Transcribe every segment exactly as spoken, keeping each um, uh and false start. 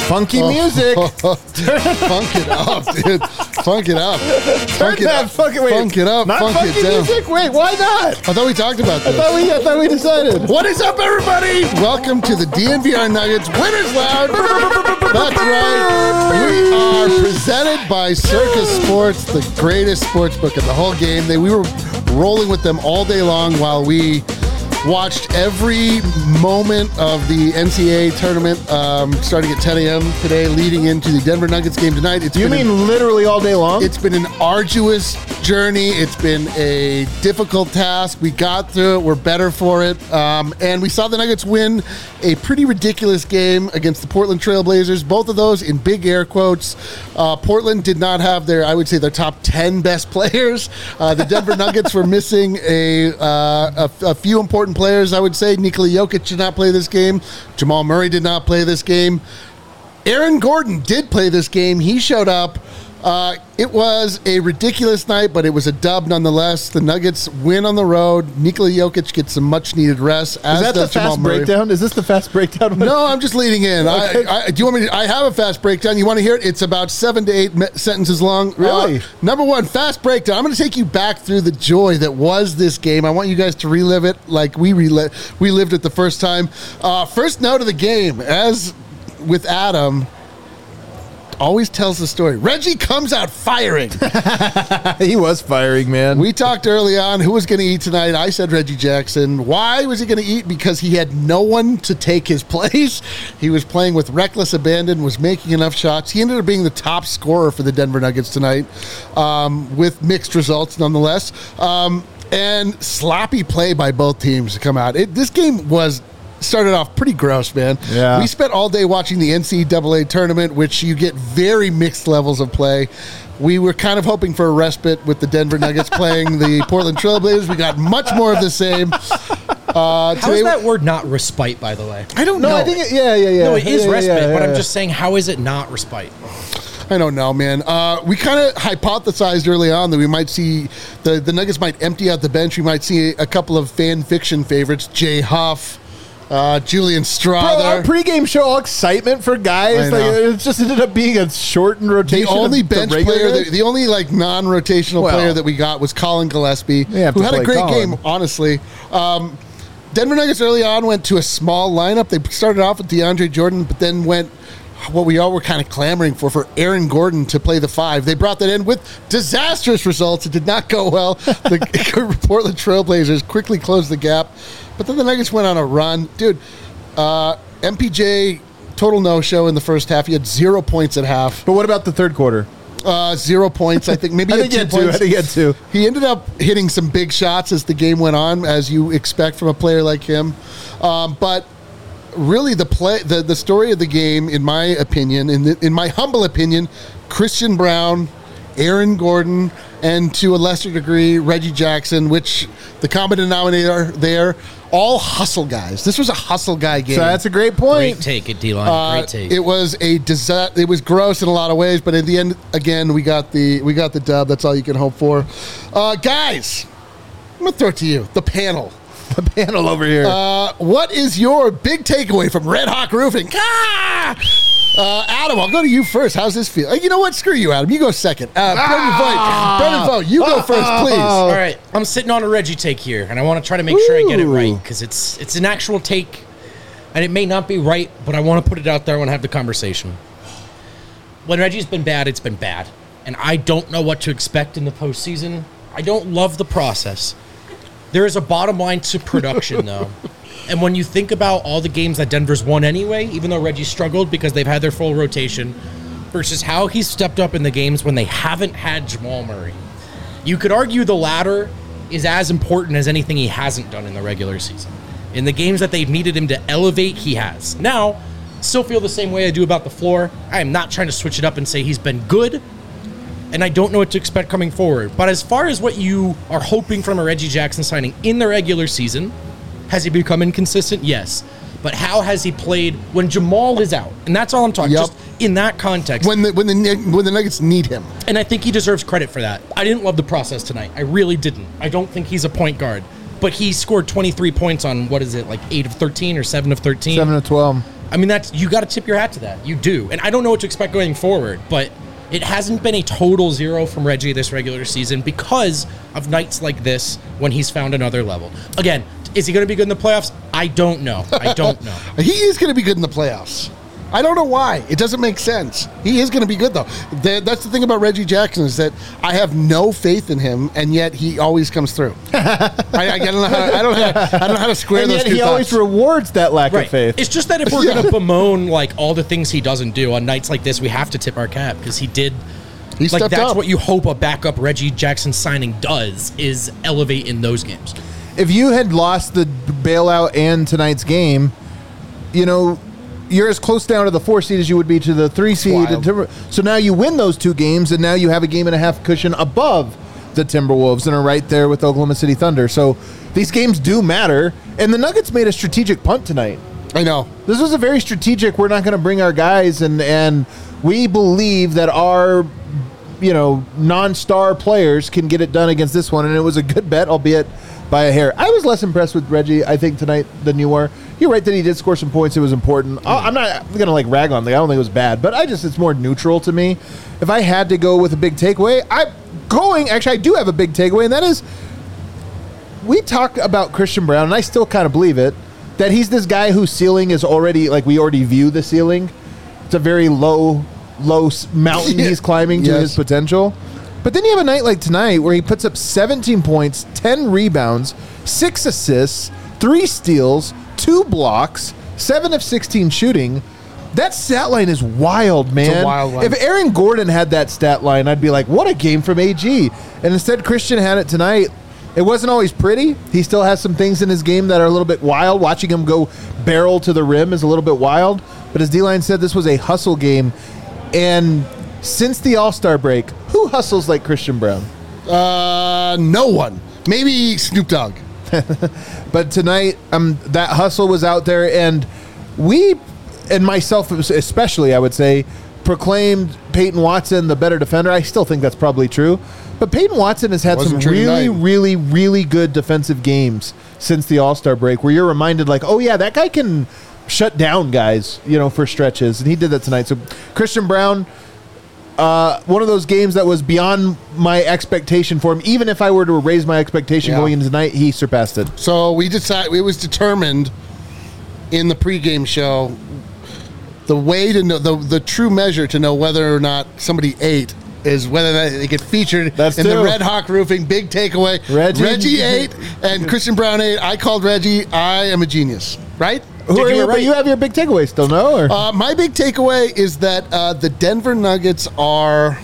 Funky oh, music. Funk it up, dude. Funk it up. Funk it that up. Fucking, wait, Funk it up. Not Funk funky it down. music? Wait, why not? I thought we talked about this. I thought we, I thought we decided. What is up, everybody? Welcome to the D N V R Nuggets Winners Lounge. That's right. We are presented by Circus Sports, the greatest sports book in the whole game. They, we were rolling with them all day long while we watched every moment of the N C double A tournament, um, starting at ten a.m. today, leading into the Denver Nuggets game tonight. It's you mean an, literally all day long? It's been an arduous journey. It's been a difficult task. We got through it. We're better for it. Um, and we saw the Nuggets win a pretty ridiculous game against the Portland Trail Blazers. Both of those in big air quotes. Uh, Portland did not have their, I would say, their top ten best players. Uh, the Denver Nuggets were missing a, uh, a, a few important players, I would say. Nikola Jokic did not play this game. Jamal Murray did not play this game. Aaron Gordon did play this game. He showed up. Uh, it was a ridiculous night, but it was a dub nonetheless. The Nuggets win on the road. Nikola Jokic gets some much-needed rest. As Is that does the Jamal fast Murray. breakdown? Is this the fast breakdown? No, I'm just leading in. Okay. I, I, do you want me to, I have a fast breakdown. You want to hear it? It's about seven to eight me- sentences long. Really? Uh, number one, fast breakdown. I'm going to take you back through the joy that was this game. I want you guys to relive it like we rel- we lived it the first time. Uh, first note of the game, as with Adam, always tells the story. Reggie comes out firing. He was firing, man. We talked early on who was going to eat tonight. I said Reggie Jackson. Why was he going to eat? Because he had no one to take his place. He was playing with reckless abandon, was making enough shots. He ended up being the top scorer for the Denver Nuggets tonight, um, with mixed results nonetheless. Um, and sloppy play by both teams to come out. It, this game was started off pretty gross, man. Yeah. We spent all day watching the N C double A tournament, which you get very mixed levels of play. We were kind of hoping for a respite with the Denver Nuggets playing the Portland Trail Blazers. We got much more of the same. Uh, how is that word not respite, by the way? I don't no, know. I think it, yeah, yeah, yeah. No, it is yeah, respite, yeah, yeah, but I'm yeah. just saying, how is it not respite? I don't know, man. Uh, we kind of hypothesized early on that we might see the, the Nuggets might empty out the bench. We might see a couple of fan fiction favorites, Jay Huff, Uh, Julian Strother. Bro, our pregame show, all excitement for guys. Like, it just ended up being a shortened rotation. The only of bench the player, guys. the, the only like non-rotational Well, player that we got was Colin Gillespie, have who to had a play great Colin. game, honestly. Um, Denver Nuggets early on went to a small lineup. They started off with DeAndre Jordan, but then went what we all were kind of clamoring for, for Aaron Gordon to play the five. They brought that in with disastrous results. It did not go well. The Portland Trail Blazers quickly closed the gap, but then the Nuggets went on a run. Dude, uh, M P J, total no-show in the first half. He had zero points at half. But what about the third quarter? Uh, zero points, I think. Maybe I he think had two he had two. points. I think he had two. He ended up hitting some big shots as the game went on, as you expect from a player like him. Um, but really, the play, the, the story of the game, in my opinion, in the, in my humble opinion, Christian Braun, Aaron Gordon, and to a lesser degree, Reggie Jackson, which the common denominator there, all hustle guys. This was a hustle guy game. So that's a great point. Great take it, D-line. Uh, Great take. It was a disa- It was gross in a lot of ways, but in the end, again, we got the we got the dub. That's all you can hope for, uh, guys. I'm gonna throw it to you, the panel. The panel over here. Uh, what is your big takeaway from Red Hawk Roofing? Ah! Uh, Adam, I'll go to you first. How's this feel? Uh, you know what? Screw you, Adam. You go second. Uh, Ah! Brendan Vogt. Brendan Vogt, you go first, please. All right, I'm sitting on a Reggie take here, and I want to try to make sure I get it Ooh. right, because it's it's an actual take, and it may not be right, but I want to put it out there. I want to have the conversation. When Reggie's been bad, it's been bad, and I don't know what to expect in the postseason. I don't love the process. There is a bottom line to production, though. And when you think about all the games that Denver's won anyway, even though Reggie struggled because they've had their full rotation, versus how he's stepped up in the games when they haven't had Jamal Murray, you could argue the latter is as important as anything he hasn't done in the regular season. In the games that they've needed him to elevate, he has. Now, still feel the same way I do about the floor. I am not trying to switch it up and say he's been good, and I don't know what to expect coming forward. But as far as what you are hoping from a Reggie Jackson signing in the regular season, has he become inconsistent? Yes. But how has he played when Jamal is out? And that's all I'm talking, Yep. just in that context. When the when the when the Nuggets need him. And I think he deserves credit for that. I didn't love the process tonight. I really didn't. I don't think he's a point guard. But he scored twenty-three points on, what is it, like eight of thirteen or seven of thirteen? seven of twelve. I mean, that's you got to tip your hat to that. You do. And I don't know what to expect going forward, but it hasn't been a total zero from Reggie this regular season because of nights like this when he's found another level. Again, is he going to be good in the playoffs? I don't know. I don't know. He is going to be good in the playoffs. I don't know why. It doesn't make sense. He is going to be good, though. The, that's the thing about Reggie Jackson is that I have no faith in him, and yet he always comes through. I, I, don't know how to, I, don't know how, I don't know how to square and those yet two he thoughts. always rewards that lack Right. of faith. It's just that if we're Yeah. going to bemoan like all the things he doesn't do on nights like this, we have to tip our cap because he did. He like stepped that's up. what you hope a backup Reggie Jackson signing does is elevate in those games. If you had lost the bailout and tonight's game, you know, you're as close down to the four seed as you would be to the three seed. wild. Timber- so now you win those two games, and now you have a game and a half cushion above the Timberwolves and are right there with Oklahoma City Thunder. So these games do matter, and the Nuggets made a strategic punt tonight. I know. This was a very strategic. We're not going to bring our guys, and and we believe that our, you know, non-star players can get it done against this one, and it was a good bet, albeit by a hair. I was less impressed with Reggie, I think, tonight than you were. You're right that he did score some points. It was important. I- I'm not going to like rag on the guy. I don't think it was bad, but I just it's more neutral to me. If I had to go with a big takeaway, I'm going. Actually, I do have a big takeaway, and that is we talk about Christian Braun, and I still kind of believe it, that he's this guy whose ceiling is already like we already view the ceiling. It's a very low, low s- mountain he's climbing to Yes. his potential. But then you have a night like tonight where he puts up seventeen points, ten rebounds, six assists, three steals, two blocks, seven of sixteen shooting. That stat line is wild, man. wild line. If Aaron Gordon had that stat line, I'd be like, what a game from A G. And instead, Christian had it tonight. It wasn't always pretty. He still has some things in his game that are a little bit wild. Watching him go barrel to the rim is a little bit wild. But as D-Line said, this was a hustle game. And since the All-Star break, who hustles like Christian Braun? Uh, no one. Maybe Snoop Dogg. But tonight, um, that hustle was out there, and we, and myself especially, I would say, proclaimed Peyton Watson the better defender. I still think that's probably true. But Peyton Watson has had Wasn't some true really, tonight. really, really good defensive games since the All-Star break where you're reminded, like, oh, yeah, that guy can shut down guys, you know, for stretches. And he did that tonight. So Christian Braun, uh, one of those games that was beyond my expectation for him. Even if I were to raise my expectation Yeah. going into tonight, he surpassed it. So we decided it was determined in the pregame show the way to know the the true measure to know whether or not somebody ate is whether that they get featured That's in the true. Red Hawk Roofing big takeaway. Reggie- Reggie ate and Christian Braun ate. I called Reggie. I am a genius, right? Who Did are you you? right? But you have your big takeaway still, no? Or? Uh, my big takeaway is that uh, the Denver Nuggets are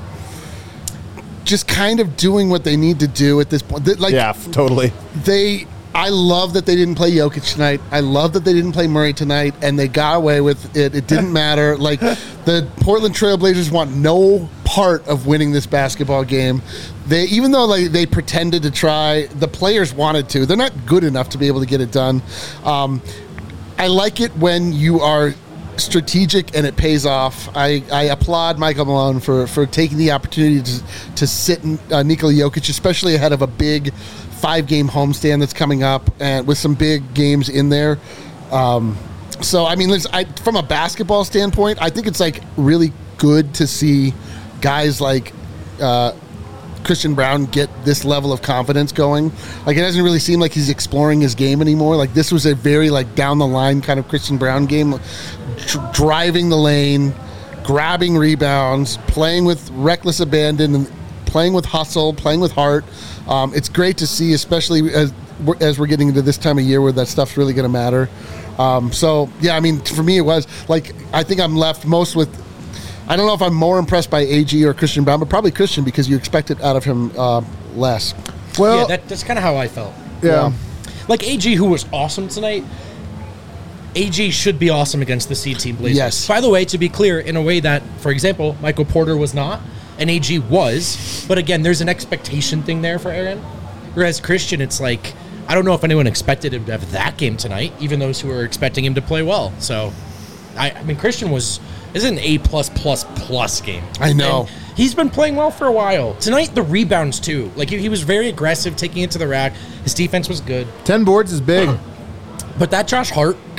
just kind of doing what they need to do at this point. They- Like, yeah, f- totally. they I love that they didn't play Jokic tonight. I love that they didn't play Murray tonight, and they got away with it. It didn't matter. Like, the Portland Trailblazers want no part of winning this basketball game. They even though like they pretended to try, the players wanted to. They're not good enough to be able to get it done. Um, I like it when you are strategic and it pays off. I, I applaud Michael Malone for, for taking the opportunity to, to sit uh, Nikola Jokic, especially ahead of a big five-game homestand that's coming up and with some big games in there. Um, so, I mean, listen, I, from a basketball standpoint, I think it's like really good to see guys like uh, Christian Braun get this level of confidence going. Like, it doesn't really seem like he's exploring his game anymore. Like, this was a very like down the line kind of Christian Braun game, dr- driving the lane, grabbing rebounds, playing with reckless abandon, and playing with hustle, playing with heart. Um, it's great to see, especially as we're, as we're getting into this time of year where that stuff's really going to matter. Um, so yeah, I mean, for me, it was like I think I'm left most with. I don't know if I'm more impressed by A G or Christian Braun, but probably Christian because you expect it out of him uh, less. Well, yeah, that, that's kind of how I felt. yeah. Like A G, who was awesome tonight. A G should be awesome against the C Team Blazers. Yes. By the way, to be clear, in a way that, for example, Michael Porter was not, and A G was. But again, there's an expectation thing there for Aaron. Whereas Christian, it's like, I don't know if anyone expected him to have that game tonight, even those who were expecting him to play well. So, I, I mean, Christian was this is an A plus plus plus game. I know. And he's been playing well for a while. Tonight, the rebounds too. Like he, he was very aggressive, taking it to the rack. His defense was good. ten boards is big. But that Josh Hart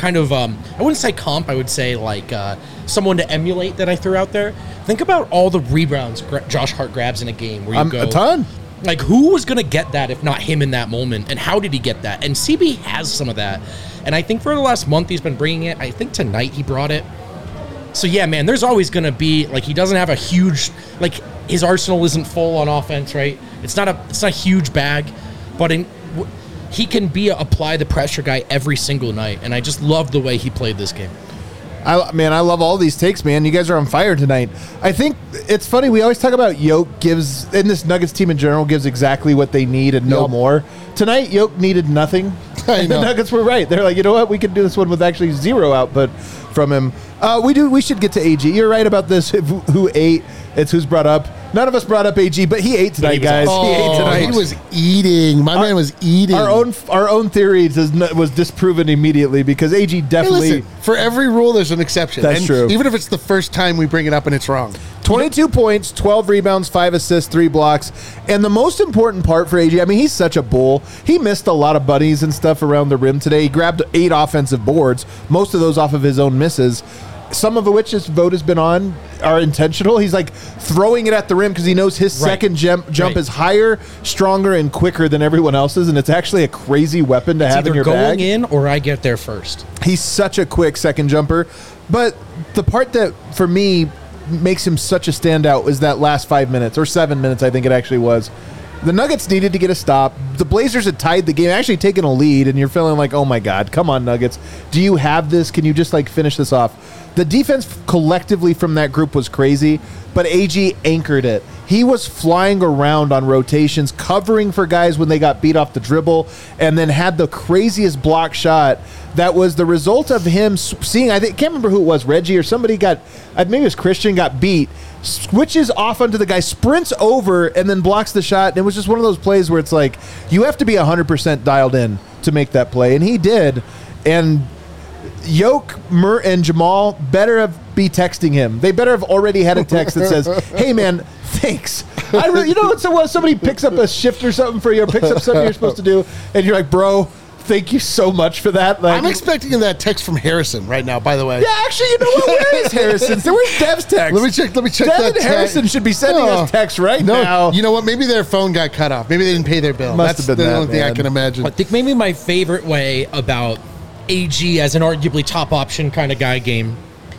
kind of, um, I wouldn't say comp, I would say like uh, someone to emulate that I threw out there. Think about all the rebounds gra- Josh Hart grabs in a game where you Um, go. a ton. Like, who was going to get that if not him in that moment? And how did he get that? And C B has some of that. And I think for the last month he's been bringing it. I think tonight he brought it. So, yeah, man, there's always going to be, like, he doesn't have a huge, like, his arsenal isn't full on offense, right? It's not a it's not a huge bag, but in, w- he can be a apply the pressure guy every single night. And I just love the way he played this game. I, man, I love all these takes, man. You guys are on fire tonight. I think it's funny. We always talk about Yoke gives, and this Nuggets team in general gives exactly what they need and no Yep. more. Tonight, Yoke needed nothing. I And the know. Nuggets were right. They're like, you know what? We can do this one with actually zero output from him. Uh, we do. We should get to A G. You're right about this. Who, who ate? It's who's brought up. None of us brought up A G, but he ate tonight, he was guys. awesome. He ate Oh, tonight. he was eating. My Our- man was eating. Our own our own theory does not, was disproven immediately because A G Hey, definitely. listen, for every rule, there's an exception. That's and true. Even if it's the first time we bring it up and it's wrong. twenty-two points, twelve rebounds, five assists, three blocks. And the most important part for A G, I mean, he's such a bull. He missed a lot of buddies and stuff around the rim today. He grabbed eight offensive boards, most of those off of his own misses. Some of which this vote has been on are intentional. He's like throwing it at the rim because he knows his Right. second jump, jump Right. is higher, stronger, and quicker than everyone else's. And it's actually a crazy weapon to It's have in either your going bag. in or I get there first. He's such a quick second jumper. But the part that, for me, makes him such a standout is that last five minutes, or seven minutes, I think it actually was. The Nuggets needed to get a stop. The Blazers had tied the game, actually taken a lead, and you're feeling like, oh my God, come on, Nuggets. Do you have this? Can you just, like, finish this off? The defense collectively from that group was crazy, but A G anchored it. He was flying around on rotations, covering for guys when they got beat off the dribble, and then had the craziest block shot that was the result of him s- seeing, I think, can't remember who it was, Reggie or somebody got, uh, maybe it was Christian, got beat, switches off onto the guy, sprints over, and then blocks the shot. And it was just one of those plays where it's like, you have to be one hundred percent dialed in to make that play. And he did. And Yoke, Mur, and Jamal better have be texting him. They better have already had a text that says, hey, man, thanks. I really, you know, it's so somebody picks up a shift or something for you, or picks up something you're supposed to do, and you're like, bro, thank you so much for that. Like, I'm expecting that text from Harrison right now, by the way. yeah, actually, you know what? Where is Harrison's? Where's Dev's text? Let me check. Let me check Dev that and text. Harrison should be sending Oh. us text right No, now. you know what? Maybe their phone got cut off. Maybe they didn't pay their bill. Must That's have been the that, only thing I man. can imagine. I think maybe my favorite way about A G as an arguably top option kind of guy game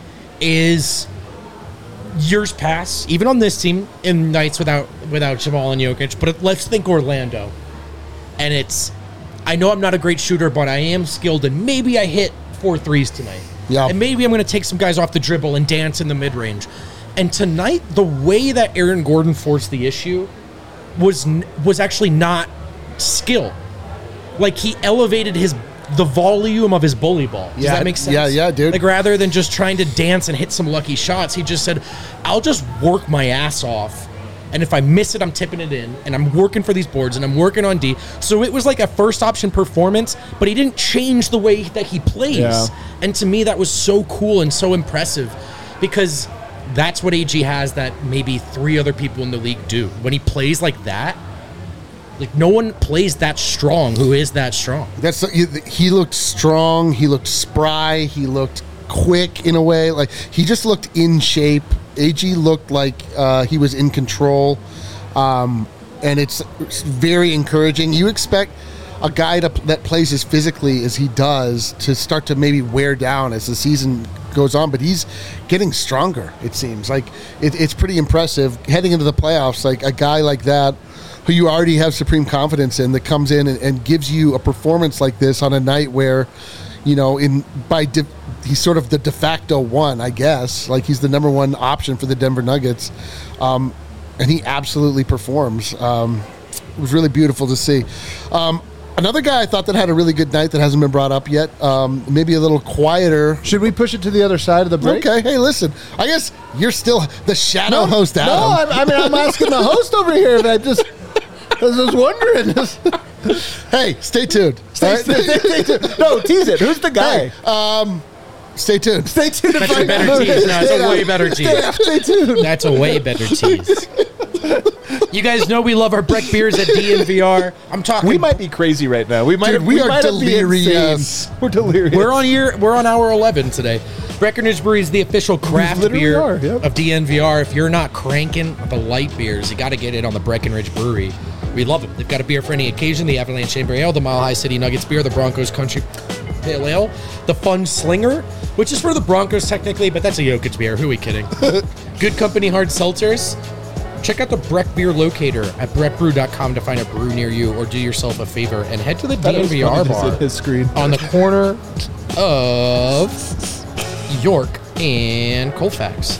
is years past, even on this team, in nights without without Jamal and Jokic. But let's think Orlando, and it's I know I'm not a great shooter, but I am skilled, and maybe I hit four threes tonight. Yeah. And maybe I'm going to take some guys off the dribble and dance in the mid range. And tonight, the way that Aaron Gordon forced the issue was n- was actually not skill. Like, he elevated his the volume of his bully ball. Does Yeah, that make sense? yeah, yeah, dude. Like, rather than just trying to dance and hit some lucky shots, he just said, I'll just work my ass off. And if I miss it, I'm tipping it in. And I'm working for these boards, and I'm working on D. So it was like a first option performance, but he didn't change the way that he plays. Yeah. And to me, that was so cool and so impressive, because that's what A G has that maybe three other people in the league do. When he plays like that, like, no one plays that strong who is that strong. That's he looked strong. He looked spry. He looked quick in a way. Like, he just looked in shape. A G looked like uh, he was in control, um, and it's, it's very encouraging. You expect a guy to, that plays as physically as he does to start to maybe wear down as the season goes on, but he's getting stronger. It seems like it, it's pretty impressive heading into the playoffs. Like, a guy like that, who you already have supreme confidence in, that comes in and, and gives you a performance like this on a night where, you know, in by de, he's sort of the de facto one, I guess. Like, he's the number one option for the Denver Nuggets, um, and he absolutely performs. Um, it was really beautiful to see. Um, another guy I thought that had a really good night that hasn't been brought up yet, um, maybe a little quieter. Should we push it to the other side of the break? Okay, hey, listen, I guess you're still the shadow No, host, Adam. No, I, I mean, I'm asking the host over here. That just, I was just wondering. Hey, stay tuned. Stay, All right? stay, stay, stay tuned. No, tease it. Who's the guy? Hey, um, stay tuned. Stay tuned. to That's a find better out. tease. No, it's a way better Stay, tease. stay tuned. That's a way better tease. You guys know we love our Breck beers at D N V R. I'm talking. We might be crazy right now. We might. Dude, we are might be delirious. insane. We're delirious. We're on year. We're on hour eleven today. Breckenridge Brewery is the official craft literally beer are, yep. of D N V R. If you're not cranking the light beers, you got to get it on the Breckenridge Brewery. We love it. They've got a beer for any occasion: the Avalanche Chamber Ale, the Mile High City Nuggets beer, the Broncos Country Pale Ale, the Fun Slinger, which is for the Broncos technically, but that's a Jokic beer. Who are we kidding? Good Company Hard Seltzers. Check out the Breck Beer Locator at breck brew dot com to find a brew near you, or do yourself a favor and head to the D N V R bar his screen. on the corner of York and Colfax.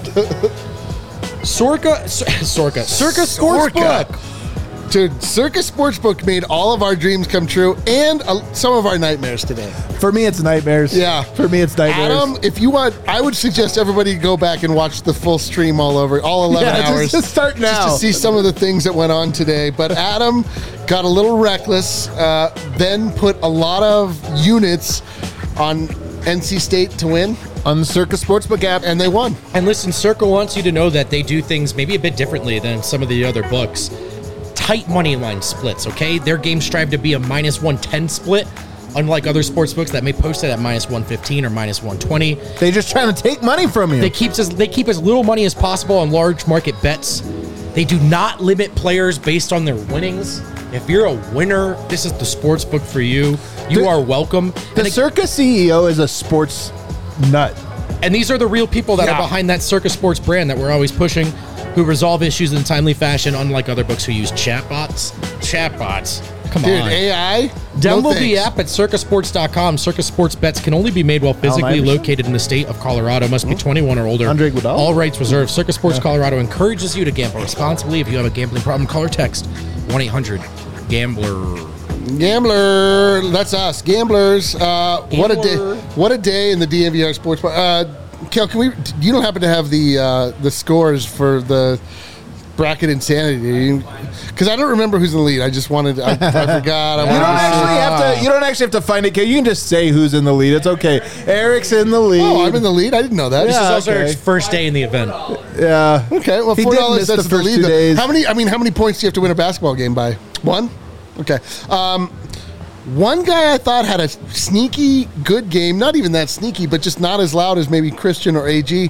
Sorka, Sorka, Circa Sportsbook. Dude, Circus Sportsbook made all of our dreams come true and uh, some of our nightmares today. For me, it's nightmares. Yeah. For me, it's nightmares. Adam, if you want, I would suggest everybody go back and watch the full stream all over, all eleven Yeah, just- hours. just start now. Just to see some of the things that went on today. But Adam got a little reckless, uh, then put a lot of units on N C State to win, on the Circus Sportsbook app. and they won. And listen, Circa wants you to know that they do things maybe a bit differently than some of the other books. Tight money line splits, okay? Their games strive to be a minus one ten split, unlike other sports books that may post it at minus one fifteen or minus one twenty. They just trying to take money from you. They keeps as they keep as little money as possible on large market bets. They do not limit players based on their winnings. If you're a winner, this is the sports book for you. You The- are welcome. the And, Circus C E O is a sports nut. and these are the real people that Yeah. are behind that Circus Sports brand that we're always pushing, who resolve issues in a timely fashion, unlike other books who use chatbots. Chatbots. Come Dude, on. A I? Download No the thanks. app at circus sports dot com. Circus Sports bets can only be made while physically Iverson? located in the state of Colorado. Must be twenty-one or older. Andre Iguodala? All rights reserved. Circus Sports Colorado encourages you to gamble responsibly. If you have a gambling problem, call or text one eight hundred gambler. Gambler, that's us, gamblers. Uh, what a day! Gambler. What a day in the D N V R sports bar. Uh, Kel, can we? You don't happen to have the uh, the scores for the bracket insanity? Because I don't remember who's in the lead. I just wanted. I, I forgot. I You wanted don't to see- actually have to. You don't actually have to find it. You can just say who's in the lead. It's okay. Eric's in the lead. Oh, I'm in the lead. I didn't know that. This is Yeah, also okay. Eric's first day in the event. Yeah. Okay, well, He four did dollars. miss That's the the, first lead. two though. days. How many? I mean, how many points do you have to win a basketball game by? One. Okay. Um, one guy I thought had a sneaky good game. Not even that sneaky, but just not as loud as maybe Christian or A G.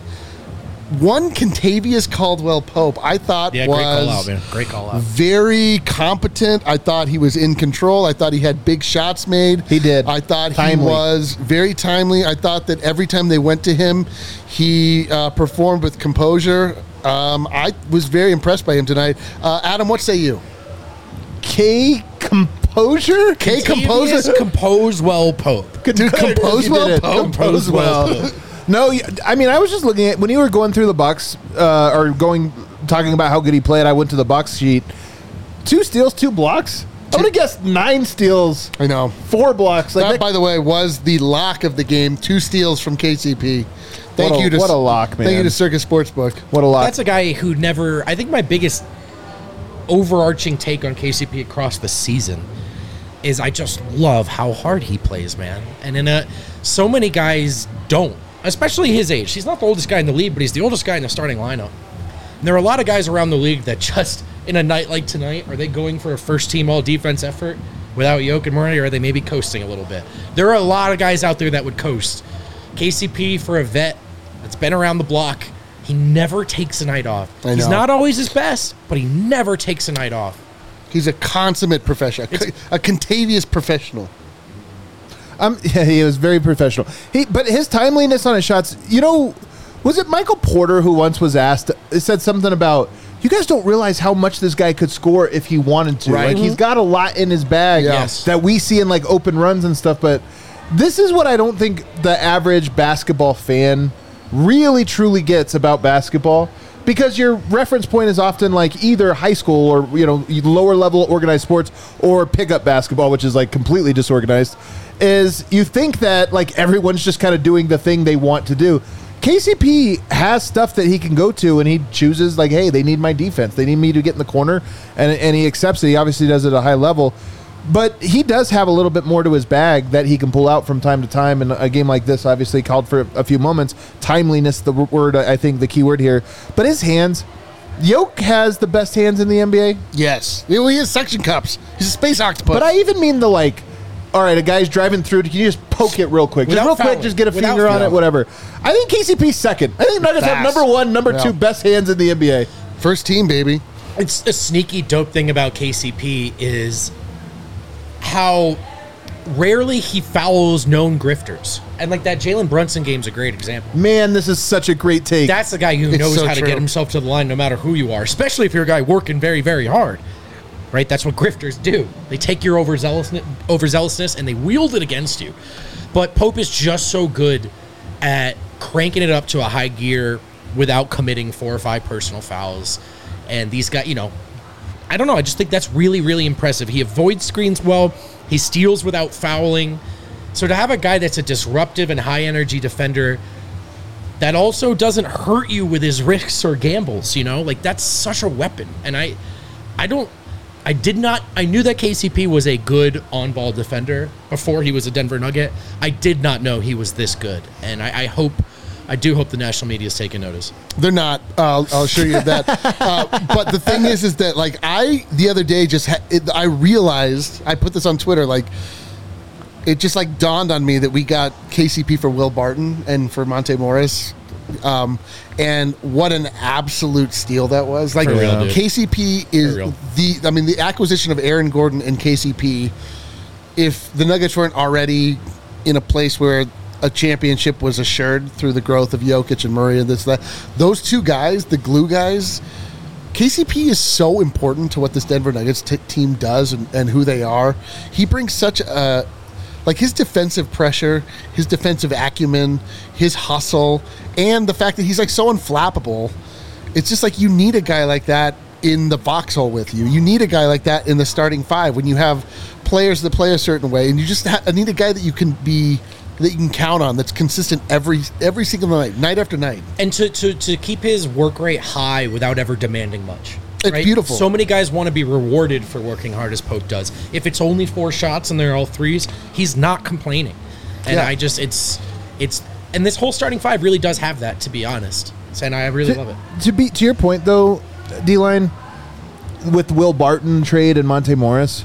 One Contavious Caldwell Pope, I thought Yeah, was great call out, man. Great call out. very competent. I thought he was in control. I thought he had big shots made. He did. I thought Timely. he was very timely. I thought that every time they went to him, he uh, performed with composure. Um, I was very impressed by him tonight. Uh, Adam, what say you? K composure. K Contavious composer. Compose well Pope. Dude, compose You well, did it. Pope. Compose well. No, y- I mean, I was just looking at when you were going through the Bucks uh, or going talking about how good he played. I went to the Bucks sheet. Two steals, two blocks. I would have guessed nine steals, I know. four blocks. Like That, that- by the way, was the lock of the game. Two steals from K C P. Thank What a- you to what a lock, Thank you man. to Circus Sportsbook. what a lot. That's a guy who never. I think my biggest overarching take on K C P across the season is I just love how hard he plays, man. And in a so many guys don't, especially his age. He's not the oldest guy in the league, but he's the oldest guy in the starting lineup. And there are a lot of guys around the league that just in a night like tonight, are they going for a first team all defense effort without Yoke and Murray, or are they maybe coasting a little bit? There are a lot of guys out there that would coast. K C P, for a vet that's been around the block, he never takes a night off. I He's know. not always his best, but he never takes a night off. He's a consummate professional, It's- a Contavious professional. Um, yeah, he was very professional. He, but his timeliness on his shots, you know, was it Michael Porter who once was asked, it said something about, you guys don't realize how much this guy could score if he wanted to. Right. Like, he's got a lot in his bag Yes. that we see in, like, open runs and stuff. But this is what I don't think the average basketball fan really, truly gets about basketball. Because your reference point is often like either high school or, you know, lower level organized sports or pickup basketball, which is like completely disorganized, is you think that like everyone's just kind of doing the thing they want to do. K C P has stuff that he can go to and he chooses like, hey, they need my defense. They need me to get in the corner, and, and he accepts it. He obviously does it at a high level. But he does have a little bit more to his bag that he can pull out from time to time. And a game like this obviously called for a few moments. Timeliness, the word, I think, the key word here. But his hands, Yoke has the best hands in the N B A. Yes. He has suction cups. He's a space octopus. But I even mean the like, all right, a guy's driving through. Can you just poke it real quick? Just Without real quick, fouling. just get a Without finger on fouling. it, whatever. I think K C P's second. I think Nuggets have Fast. number one, number Yeah. two best hands in the N B A. First team, baby. It's a sneaky dope thing about K C P is how rarely he fouls known grifters. And like that Jalen Brunson game's a great example. Man, this is such a great take. That's the guy who It's knows so how to true. get himself to the line no matter who you are, especially if you're a guy working very, very hard. Right? That's what grifters do. They take your overzealousness, overzealousness and they wield it against you. But Pope is just so good at cranking it up to a high gear without committing four or five personal fouls. And these guys, you know, I don't know. I just think that's really, really impressive. He avoids screens well. He steals without fouling. So to have a guy that's a disruptive and high-energy defender that also doesn't hurt you with his risks or gambles, you know, like that's such a weapon. And I, I don't, I did not, I knew that K C P was a good on-ball defender before he was a Denver Nugget. I did not know he was this good. And I, I hope, I do hope the national media is taking notice. They're not. Uh, I'll assure you of that. uh, but the thing is, is that like I the other day just ha- it, I realized I put this on Twitter. Like it just like dawned on me that we got K C P for Will Barton and for Monte Morris, um, and what an absolute steal that was. Like For real, dude. K C P is For real. the. I mean, the acquisition of Aaron Gordon and K C P. If the Nuggets weren't already in a place where a championship was assured through the growth of Jokic and Murray and this, that. Those two guys, the glue guys, K C P is so important to what this Denver Nuggets t- team does and, and who they are. He brings such a, like his defensive pressure, his defensive acumen, his hustle, and the fact that he's like so unflappable. It's just like you need a guy like that in the foxhole with you. You need a guy like that in the starting five when you have players that play a certain way, and you just ha- need a guy that you can be, that you can count on, that's consistent every every single night, night after night. And to, to, to keep his work rate high without ever demanding much. It's beautiful. So many guys want to be rewarded for working hard as Pope does. If it's only four shots and they're all threes, he's not complaining. And Yeah. I just, it's, it's, and this whole starting five really does have that, to be honest. And I really to, love it. To be to your point though, D-Line, with Will Barton trade and Monte Morris,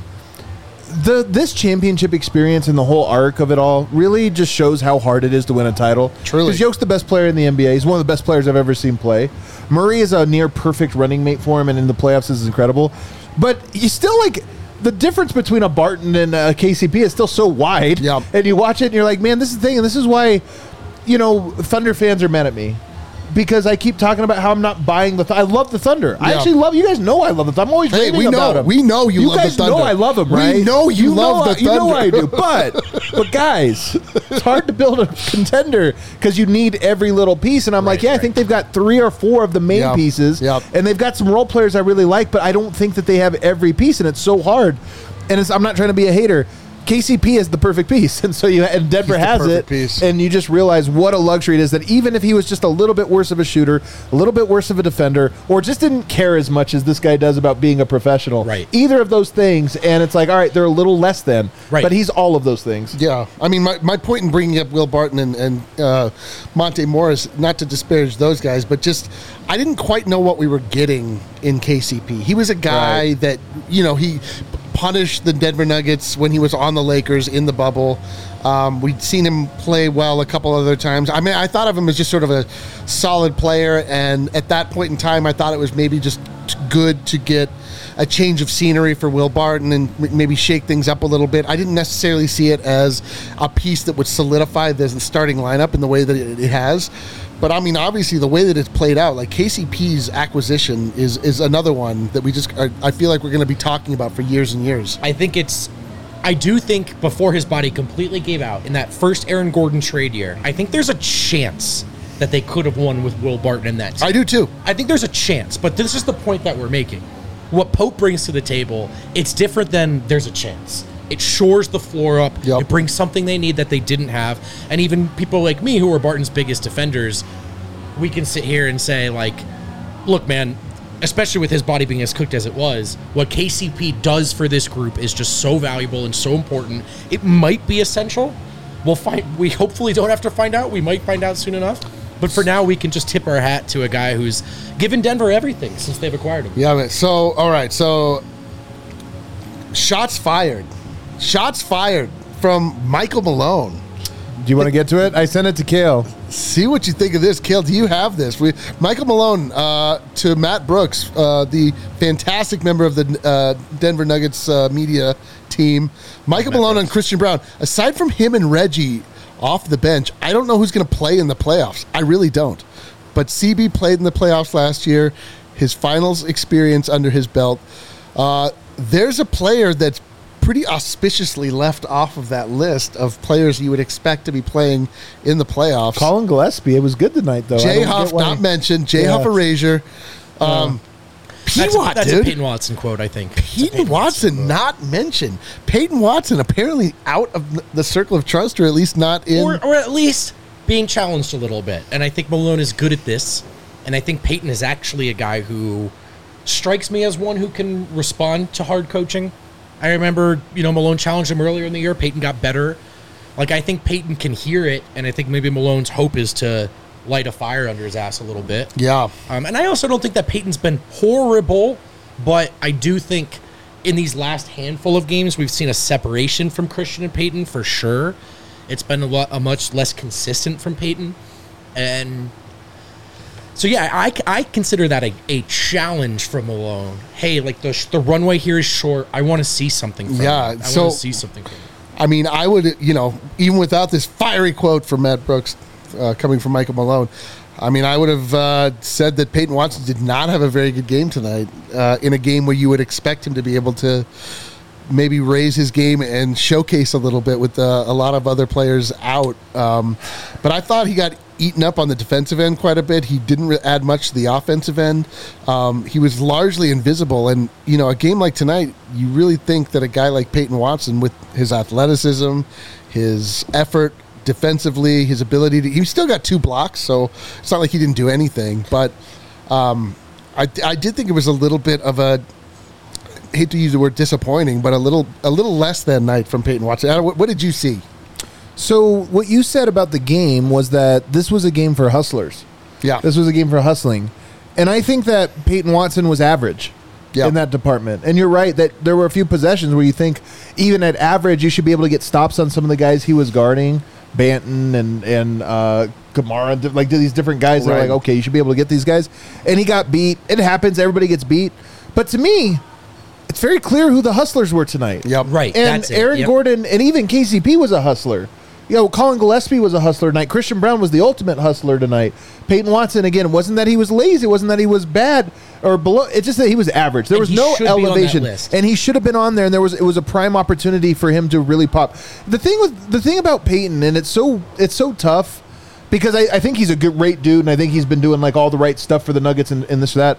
the this championship experience and the whole arc of it all really just shows how hard it is to win a title. Truly. Because Yoke's the best player in the N B A. He's one of the best players I've ever seen play. Murray is a near perfect running mate for him, and in the playoffs this is incredible. But you still like the difference between a Barton and a K C P is still so wide. Yep. And you watch it and you're like, man, this is the thing, and this is why, you know, Thunder fans are mad at me. Because I keep talking about how I'm not buying the. Th- I love the Thunder. I Yeah. actually love. You guys know I love the Thunder. I'm always Hey, raving we about know- him. we know you love the guys know Thunder. I love him, We right? know you love know the I, You know I Thunder. do. But but guys, it's hard to build a contender because you need every little piece. And I'm like, Right, yeah, I right. think they've got three or four of the main Yep. pieces, Yep. and they've got some role players I really like. But I don't think that they have every piece, and it's so hard. And it's, I'm not trying to be a hater. K C P is the perfect piece, and so you and Denver He's the has perfect it, piece. and you just realize what a luxury it is that even if he was just a little bit worse of a shooter, a little bit worse of a defender, or just didn't care as much as this guy does about being a professional, Right. either of those things, and it's like, all right, they're a little less than, Right. but he's all of those things. Yeah, I mean, my, my point in bringing up Will Barton and, and uh, Monte Morris, not to disparage those guys, but just I didn't quite know what we were getting in K C P. He was a guy Right. that, you know, he punished the Denver Nuggets when he was on the Lakers in the bubble. Um, we'd seen him play well a couple other times. I mean, I thought of him as just sort of a solid player, and at that point in time, I thought it was maybe just good to get a change of scenery for Will Barton and m- maybe shake things up a little bit. I didn't necessarily see it as a piece that would solidify the starting lineup in the way that it, it has. But I mean, obviously, the way that it's played out, like K C P's acquisition is is another one that we just are, I feel like we're going to be talking about for years and years. I think it's, I do think before his body completely gave out in that first Aaron Gordon trade year, I think there's a chance that they could have won with Will Barton in that team. I do too. I think there's a chance, but this is the point that we're making. What Pope brings to the table, it's different than there's a chance. It shores the floor up. Yep. It brings something they need that they didn't have. And even people like me who are Barton's biggest defenders, we can sit here and say, like, look, man, especially with his body being as cooked as it was, what K C P does for this group is just so valuable and so important. It might be essential. We'll find. We hopefully don't have to find out. We might find out soon enough. But for now, we can just tip our hat to a guy who's given Denver everything since they've acquired him. Yeah, man. So, all right. So, shots fired. Shots fired from Michael Malone. Do you want to get to it? I sent it to Kale. See what you think of this. Kale, do you have this? We, Michael Malone uh, to Matt Brooks, uh, the fantastic member of the uh, Denver Nuggets uh, media team. Michael Malone and Christian Brown. Aside from him and Reggie off the bench, I don't know who's going to play in the playoffs. I really don't. But C B played in the playoffs last year. His finals experience under his belt. Uh, there's a player that's pretty auspiciously left off of that list of players you would expect to be playing in the playoffs. Colin Gillespie. It was good tonight, though. Jay Huff, not he... mentioned. Jay yeah. Huff erasure. Um, yeah. That's, P-Watt, a, that's dude. a Peyton Watson quote, I think. Peyton, Peyton Watson, Watson not mentioned. Peyton Watson apparently out of the circle of trust, or at least not in. Or, or at least being challenged a little bit. And I think Malone is good at this. And I think Peyton is actually a guy who strikes me as one who can respond to hard coaching. I remember, you know, Malone challenged him earlier in the year. Peyton got better. Like, I think Peyton can hear it, and I think maybe Malone's hope is to light a fire under his ass a little bit. Yeah. Um, and I also don't think that Peyton's been horrible, but I do think in these last handful of games, we've seen a separation from Christian and Peyton for sure. It's been a, lot, a much less consistent from Peyton. And so, yeah, I, I consider that a, a challenge from Malone. Hey, like, the, the runway here is short. I want to see something from yeah, him. I so, want to see something from him. I mean, I would, you know, even without this fiery quote from Matt Brooks uh, coming from Michael Malone, I mean, I would have uh, said that Peyton Watson did not have a very good game tonight uh, in a game where you would expect him to be able to maybe raise his game and showcase a little bit with uh, a lot of other players out. Um, but I thought he got eaten up on the defensive end quite a bit. He didn't re- add much to the offensive end. Um, he was largely invisible. And, you know, a game like tonight, you really think that a guy like Peyton Watson, with his athleticism, his effort defensively, his ability to, he still got two blocks, so it's not like he didn't do anything. But um, I, I did think it was a little bit of a, I hate to use the word disappointing, but a little a little less than night from Peyton Watson. What, what did you see? So what you said about the game was that this was a game for hustlers. Yeah. This was a game for hustling. And I think that Peyton Watson was average yeah. in that department. And you're right that there were a few possessions where you think even at average you should be able to get stops on some of the guys he was guarding, Banton and, and uh, Kamara, like these different guys that right. are like, okay, you should be able to get these guys. And he got beat. It happens. Everybody gets beat. But to me, it's very clear who the hustlers were tonight. Yep. Right. And that's it. Aaron Yep. Gordon and even K C P was a hustler. You know, Colin Gillespie was a hustler tonight. Christian Brown was the ultimate hustler tonight. Peyton Watson, again, it wasn't that he was lazy. It wasn't that he was bad or below. It's just that he was average. There And was he no should be on that elevation. list. And he should have been on there, and there was it was a prime opportunity for him to really pop. The thing with the thing about Peyton, and it's so it's so tough because I, I think he's a good, great dude, and I think he's been doing like all the right stuff for the Nuggets and, and this or that.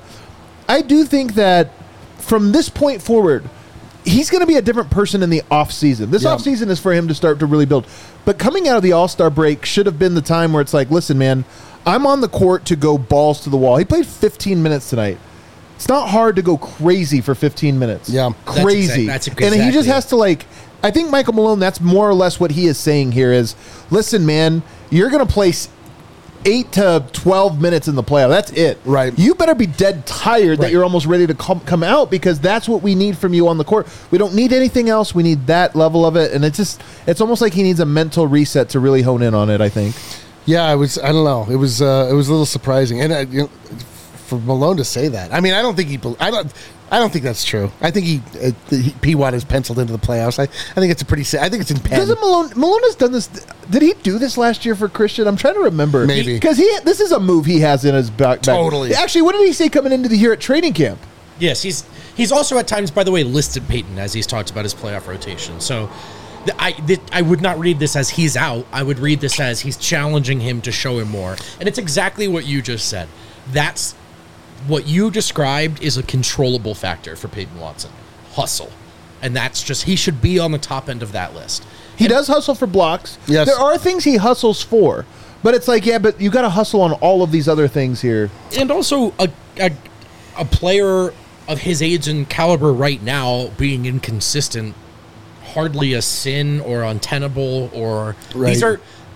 I do think that from this point forward, he's going to be a different person in the offseason. This Yeah. offseason is for him to start to really build. But coming out of the All-Star break should have been the time where it's like, listen, man, I'm on the court to go balls to the wall. He played fifteen minutes tonight. It's not hard to go crazy for fifteen minutes. Yeah. That's Crazy. exact- that's And he exactly just it. has to, like, I think Michael Malone, that's more or less what he is saying here is, listen, man, you're going to play s- eight to twelve minutes in the playoff. That's it. Right. You better be dead tired that Right. you're almost ready to come, come out because that's what we need from you on the court. We don't need anything else. We need that level of it. And it's just, it's almost like he needs a mental reset to really hone in on it, I think. Yeah, I was. I don't know. It was. Uh, it was a little surprising, and uh, you know, for Malone to say that. I mean, I don't think he. I don't. I don't think that's true. I think he. Uh, he P-Watt is penciled into the playoffs. I. I think it's a pretty. I think it's in pen. Doesn't Malone, Malone has done this. Did he do this last year for Christian? I'm trying to remember. Maybe. Because he, this is a move he has in his back. back. Totally. Actually, what did he say coming into the year at training camp? Yes, he's he's also at times, by the way, listed Peyton as he's talked about his playoff rotation. So th- I th- I would not read this as he's out. I would read this as he's challenging him to show him more. And it's exactly what you just said. That's what you described is a controllable factor for Peyton Watson. Hustle. And that's just, he should be on the top end of that list. He And- does hustle for blocks. Yes. There are things he hustles for. But it's like, yeah, but you got to hustle on all of these other things here. And also a, a a player of his age and caliber right now being inconsistent, hardly a sin or untenable or Right. these are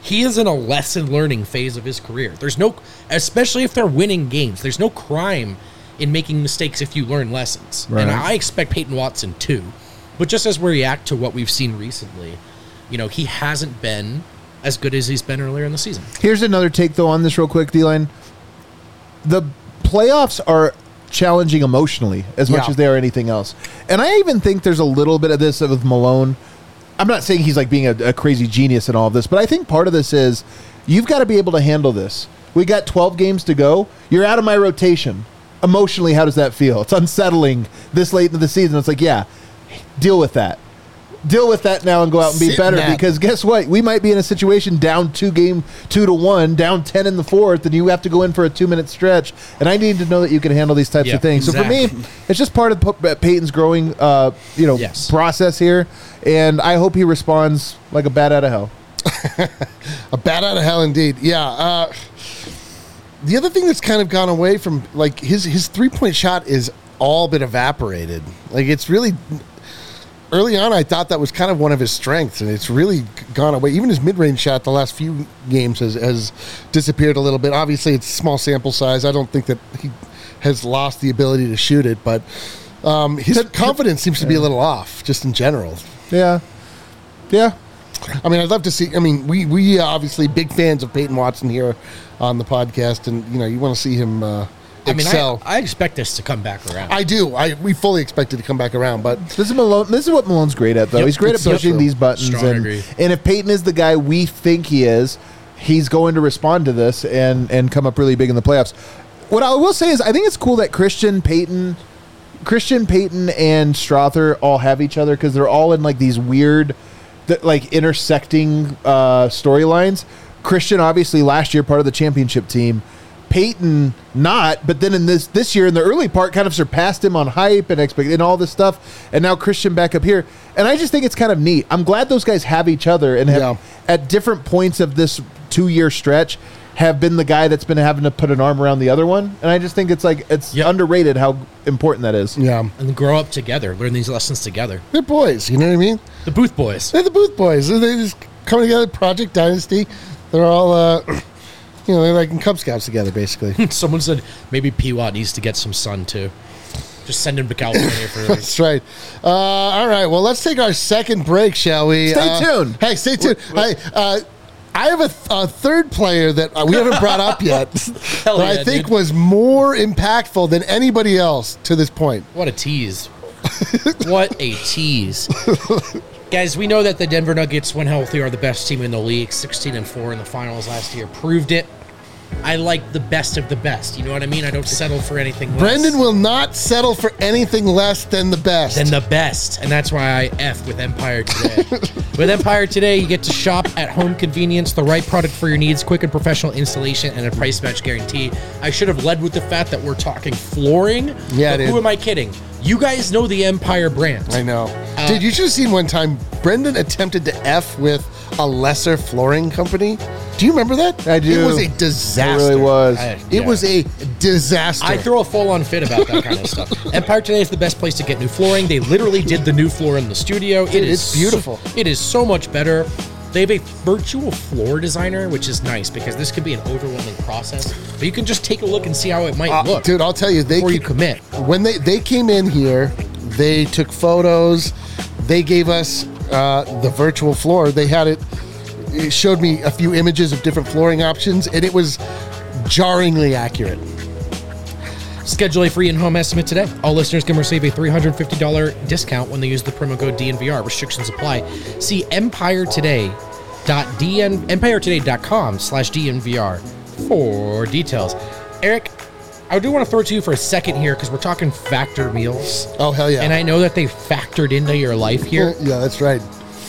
he is in a lesson learning phase of his career. There's no, especially if they're winning games, there's no crime in making mistakes if you learn lessons. Right. And I expect Peyton Watson too. But just as we react to what we've seen recently, you know, he hasn't been as good as he's been earlier in the season. Here's another take, though, on this real quick, D-Line. The playoffs are challenging emotionally as much Yeah. as they are anything else. And I even think there's a little bit of this with Malone. I'm not saying he's like being a, a crazy genius in all of this, but I think part of this is you've got to be able to handle this. We got twelve games to go. You're out of my rotation. Emotionally, how does that feel? It's unsettling this late into the season. It's like, yeah, deal with that. Deal with that now and go out and be Sit in better, that. because guess what? We might be in a situation down two game, two to one, down ten in the fourth, and you have to go in for a two minute stretch. And I need to know that you can handle these types Yeah, of things. exactly. So for me, it's just part of P- Peyton's growing, uh, you know, Yes. process here. And I hope he responds like a bat out of hell. A bat out of hell, indeed. Yeah. Uh, the other thing that's kind of gone away from, like, his his three point shot is all but evaporated. Like, it's really early on. I thought that was kind of one of his strengths, and it's really gone away. Even his mid range shot the last few games has has disappeared a little bit. Obviously, it's small sample size. I don't think that he has lost the ability to shoot it, but um, his confidence seems to be a little off, just in general. Yeah. Yeah. I mean, I'd love to see. I mean, we we are obviously big fans of Peyton Watson here on the podcast, and you know, you want to see him uh, I mean, excel. I, I expect this to come back around. I do. I we fully expect it to come back around, but This is Malone. This is what Malone's great at, though. Yep, He's great at it's so pushing true. these buttons, Strong and agree. and if Peyton is the guy we think he is, he's going to respond to this and and come up really big in the playoffs. What I will say is, I think it's cool that Christian Peyton, Christian Peyton, and Strother all have each other, because they're all in like these weird, th- like intersecting uh, storylines. Christian, obviously, last year part of the championship team. Peyton not, but then in this this year in the early part kind of surpassed him on hype and expect and all this stuff, and now Christian back up here, and I just think it's kind of neat. I'm glad those guys have each other and have Yeah. at different points of this two year stretch have been the guy that's been having to put an arm around the other one, and I just think it's like it's Yep. underrated how important that is. yeah, and grow up together, learn these lessons together. they're boys. You know what I mean? The Booth Boys. They're the Booth Boys. They just come together. Project Dynasty. They're all, uh, you know, they're like in Cub Scouts together, basically. Someone said maybe P W A T needs to get some sun too. Just send him to California for That's right. Uh, all right. Well, let's take our second break, shall we? Stay Uh, tuned. Hey, stay tuned. Hey, uh, I have a, th- a third player that uh, we haven't brought up yet Hell that yeah, I think dude. was more impactful than anybody else to this point. What a tease. What a tease. Guys, we know that the Denver Nuggets, when healthy, are the best team in the league. sixteen and four in the finals last year proved it. I like the best of the best. You know what I mean? I don't settle for anything less Brendan will not settle for anything less than the best. than the best. And that's why I F with Empire Today. With Empire Today, you get to shop at home convenience, the right product for your needs, quick and professional installation, and a price match guarantee. I should have led with the fact that we're talking flooring. Yeah, but dude. who am I kidding? You guys know the Empire brand. I know. Uh, Dude, you should have seen one time Brendan attempted to F with a lesser flooring company. Do you remember that? I do. It was a It disaster. really was. I- It yeah. was a disaster. I throw a full-on fit about that kind of stuff. Empire Today is the best place to get new flooring. They literally did the new floor in the studio. It is it's beautiful. So, it is so much better. They have a virtual floor designer, which is nice because this could be an overwhelming process. But you can just take a look and see how it might Uh, look dude, I'll tell you, they before you ca- commit. when they they came in here, they took photos. They gave us uh, the virtual floor. They had it. It showed me a few images of different flooring options, and it was jarringly accurate. Schedule a free in-home estimate today. All listeners can receive a three hundred fifty dollars discount when they use the promo code D N V R. Restrictions apply. See Empire Today. .dn, empiretoday.com slash DNVR for details. Eric, I do want to throw it to you for a second here because we're talking Factor meals. Oh hell yeah! And I know that they factored into your life here. Yeah, that's right.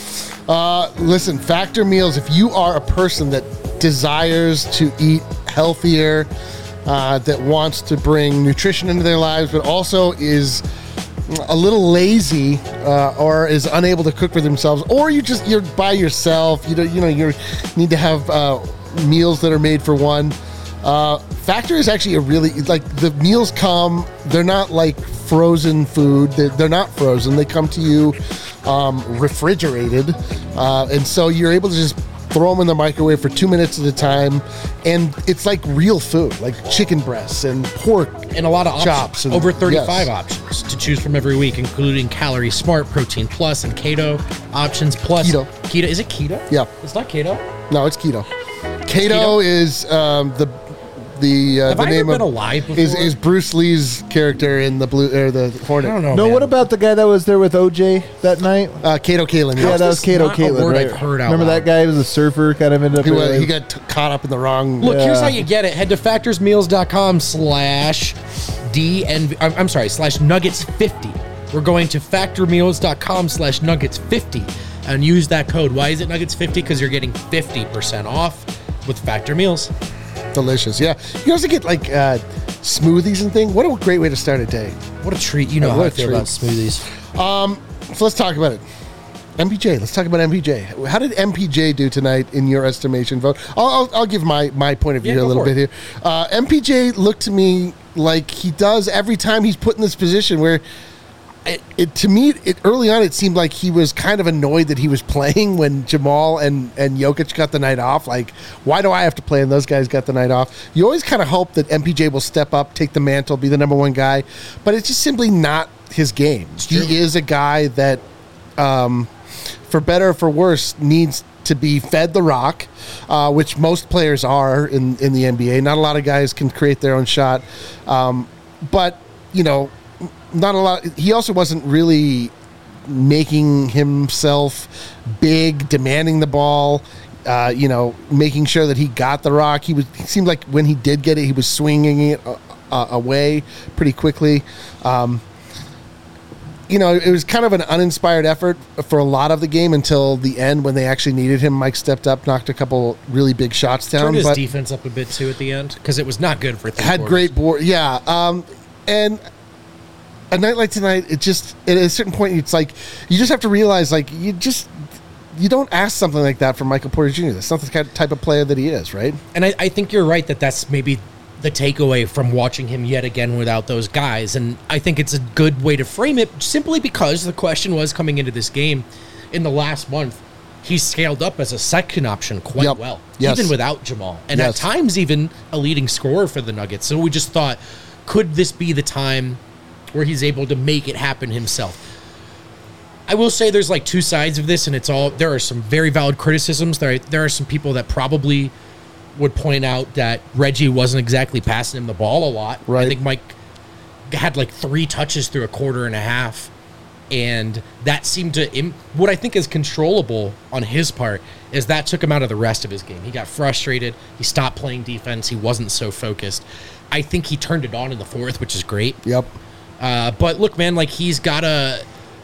Uh, listen, Factor meals. If you are a person that desires to eat healthier, uh, that wants to bring nutrition into their lives, but also is a little lazy uh, or is unable to cook for themselves, or you just you're by yourself, you know, you know, you need to have uh, meals that are made for one. Uh, Factor is actually a really like the meals come. They're not like frozen food. They're, they're not frozen. They come to you um, refrigerated, uh, and so you're able to just throw them in the microwave for two minutes at a time, and it's like real food, like chicken breasts and pork and a lot of chops. options. And, Over thirty-five yes. options to choose from every week, including Calorie Smart, Protein Plus, and Keto options. Plus Keto. Keto is it keto? Yeah. It's not keto. No, it's keto. Keto, keto? is um, the the uh, Have the I ever name been of alive before? is, is Bruce Lee's character in the blue or the Hornet. I don't know. No, man. what about the guy that was there with O J that night? Uh, Kato Kalin. Yeah, is that was this Kato not a Caitlin, word right? I've heard out Remember loud? that guy? He was a surfer, kind of ended up. He, was, in- he got t- caught up in the wrong. Look, here's Yeah. how you get it. Head to factorsmeals.com slash DNV. I'm, I'm sorry, slash nuggets fifty. We're going to factormeals.com slash nuggets fifty and use that code. Why is it nuggets fifty? Because you're getting fifty percent off with Factor Meals. Delicious. Yeah, you also get like uh, smoothies and things. What a great way to start a day. What a treat. You know Yeah, how what I a feel treat. about smoothies. So let's talk about it. M P J. Let's talk about M P J. How did M P J do tonight in your estimation vote? I'll, I'll, I'll give my, my point of view Yeah, a go little for bit it. here. Uh, M P J looked to me like he does every time he's put in this position where it, it to me it early on it seemed like he was kind of annoyed that he was playing when Jamal and, and Jokic got the night off. Like, why do I have to play and those guys got the night off? You always kind of hope that M P J will step up, take the mantle, be the number one guy, but it's just simply not his game. true. He is a guy that um, for better or for worse, needs to be fed the rock, uh, which most players are in, in the N B A. Not a lot of guys can create their own shot. Um, but, you know, not a lot. He also wasn't really making himself big, demanding the ball, uh, you know, making sure that he got the rock. He was. It seemed like when he did get it, he was swinging it uh, uh, away pretty quickly. Um, you know, it was kind of an uninspired effort for a lot of the game until the end when they actually needed him. Mike stepped up, knocked a couple really big shots down. Turned his but defense up a bit too at the end because it was not good for three had quarters. great board. Yeah. Um, and a night like tonight, it just, at a certain point, it's like, you just have to realize, like, you just, you don't ask something like that from Michael Porter Junior That's not the kind of type of player that he is, right? And I, I think you're right that that's maybe the takeaway from watching him yet again without those guys. And I think it's a good way to frame it simply because the question was coming into this game in the last month, he scaled up as a second option quite Yep. well, Yes. even without Jamal. And Yes. at times even a leading scorer for the Nuggets. So we just thought, could this be the time where he's able to make it happen himself? I will say there's like two sides of this, and it's all, there are some very valid criticisms. There, there are some people that probably would point out that Reggie wasn't exactly passing him the ball a lot. Right. I think Mike had like three touches through a quarter and a half, and that seemed to, im- what I think is controllable on his part is that took him out of the rest of his game. He got frustrated. He stopped playing defense. He wasn't so focused. I think he turned it on in the fourth, which is great. Yep. Uh, but look, man, like he's got a,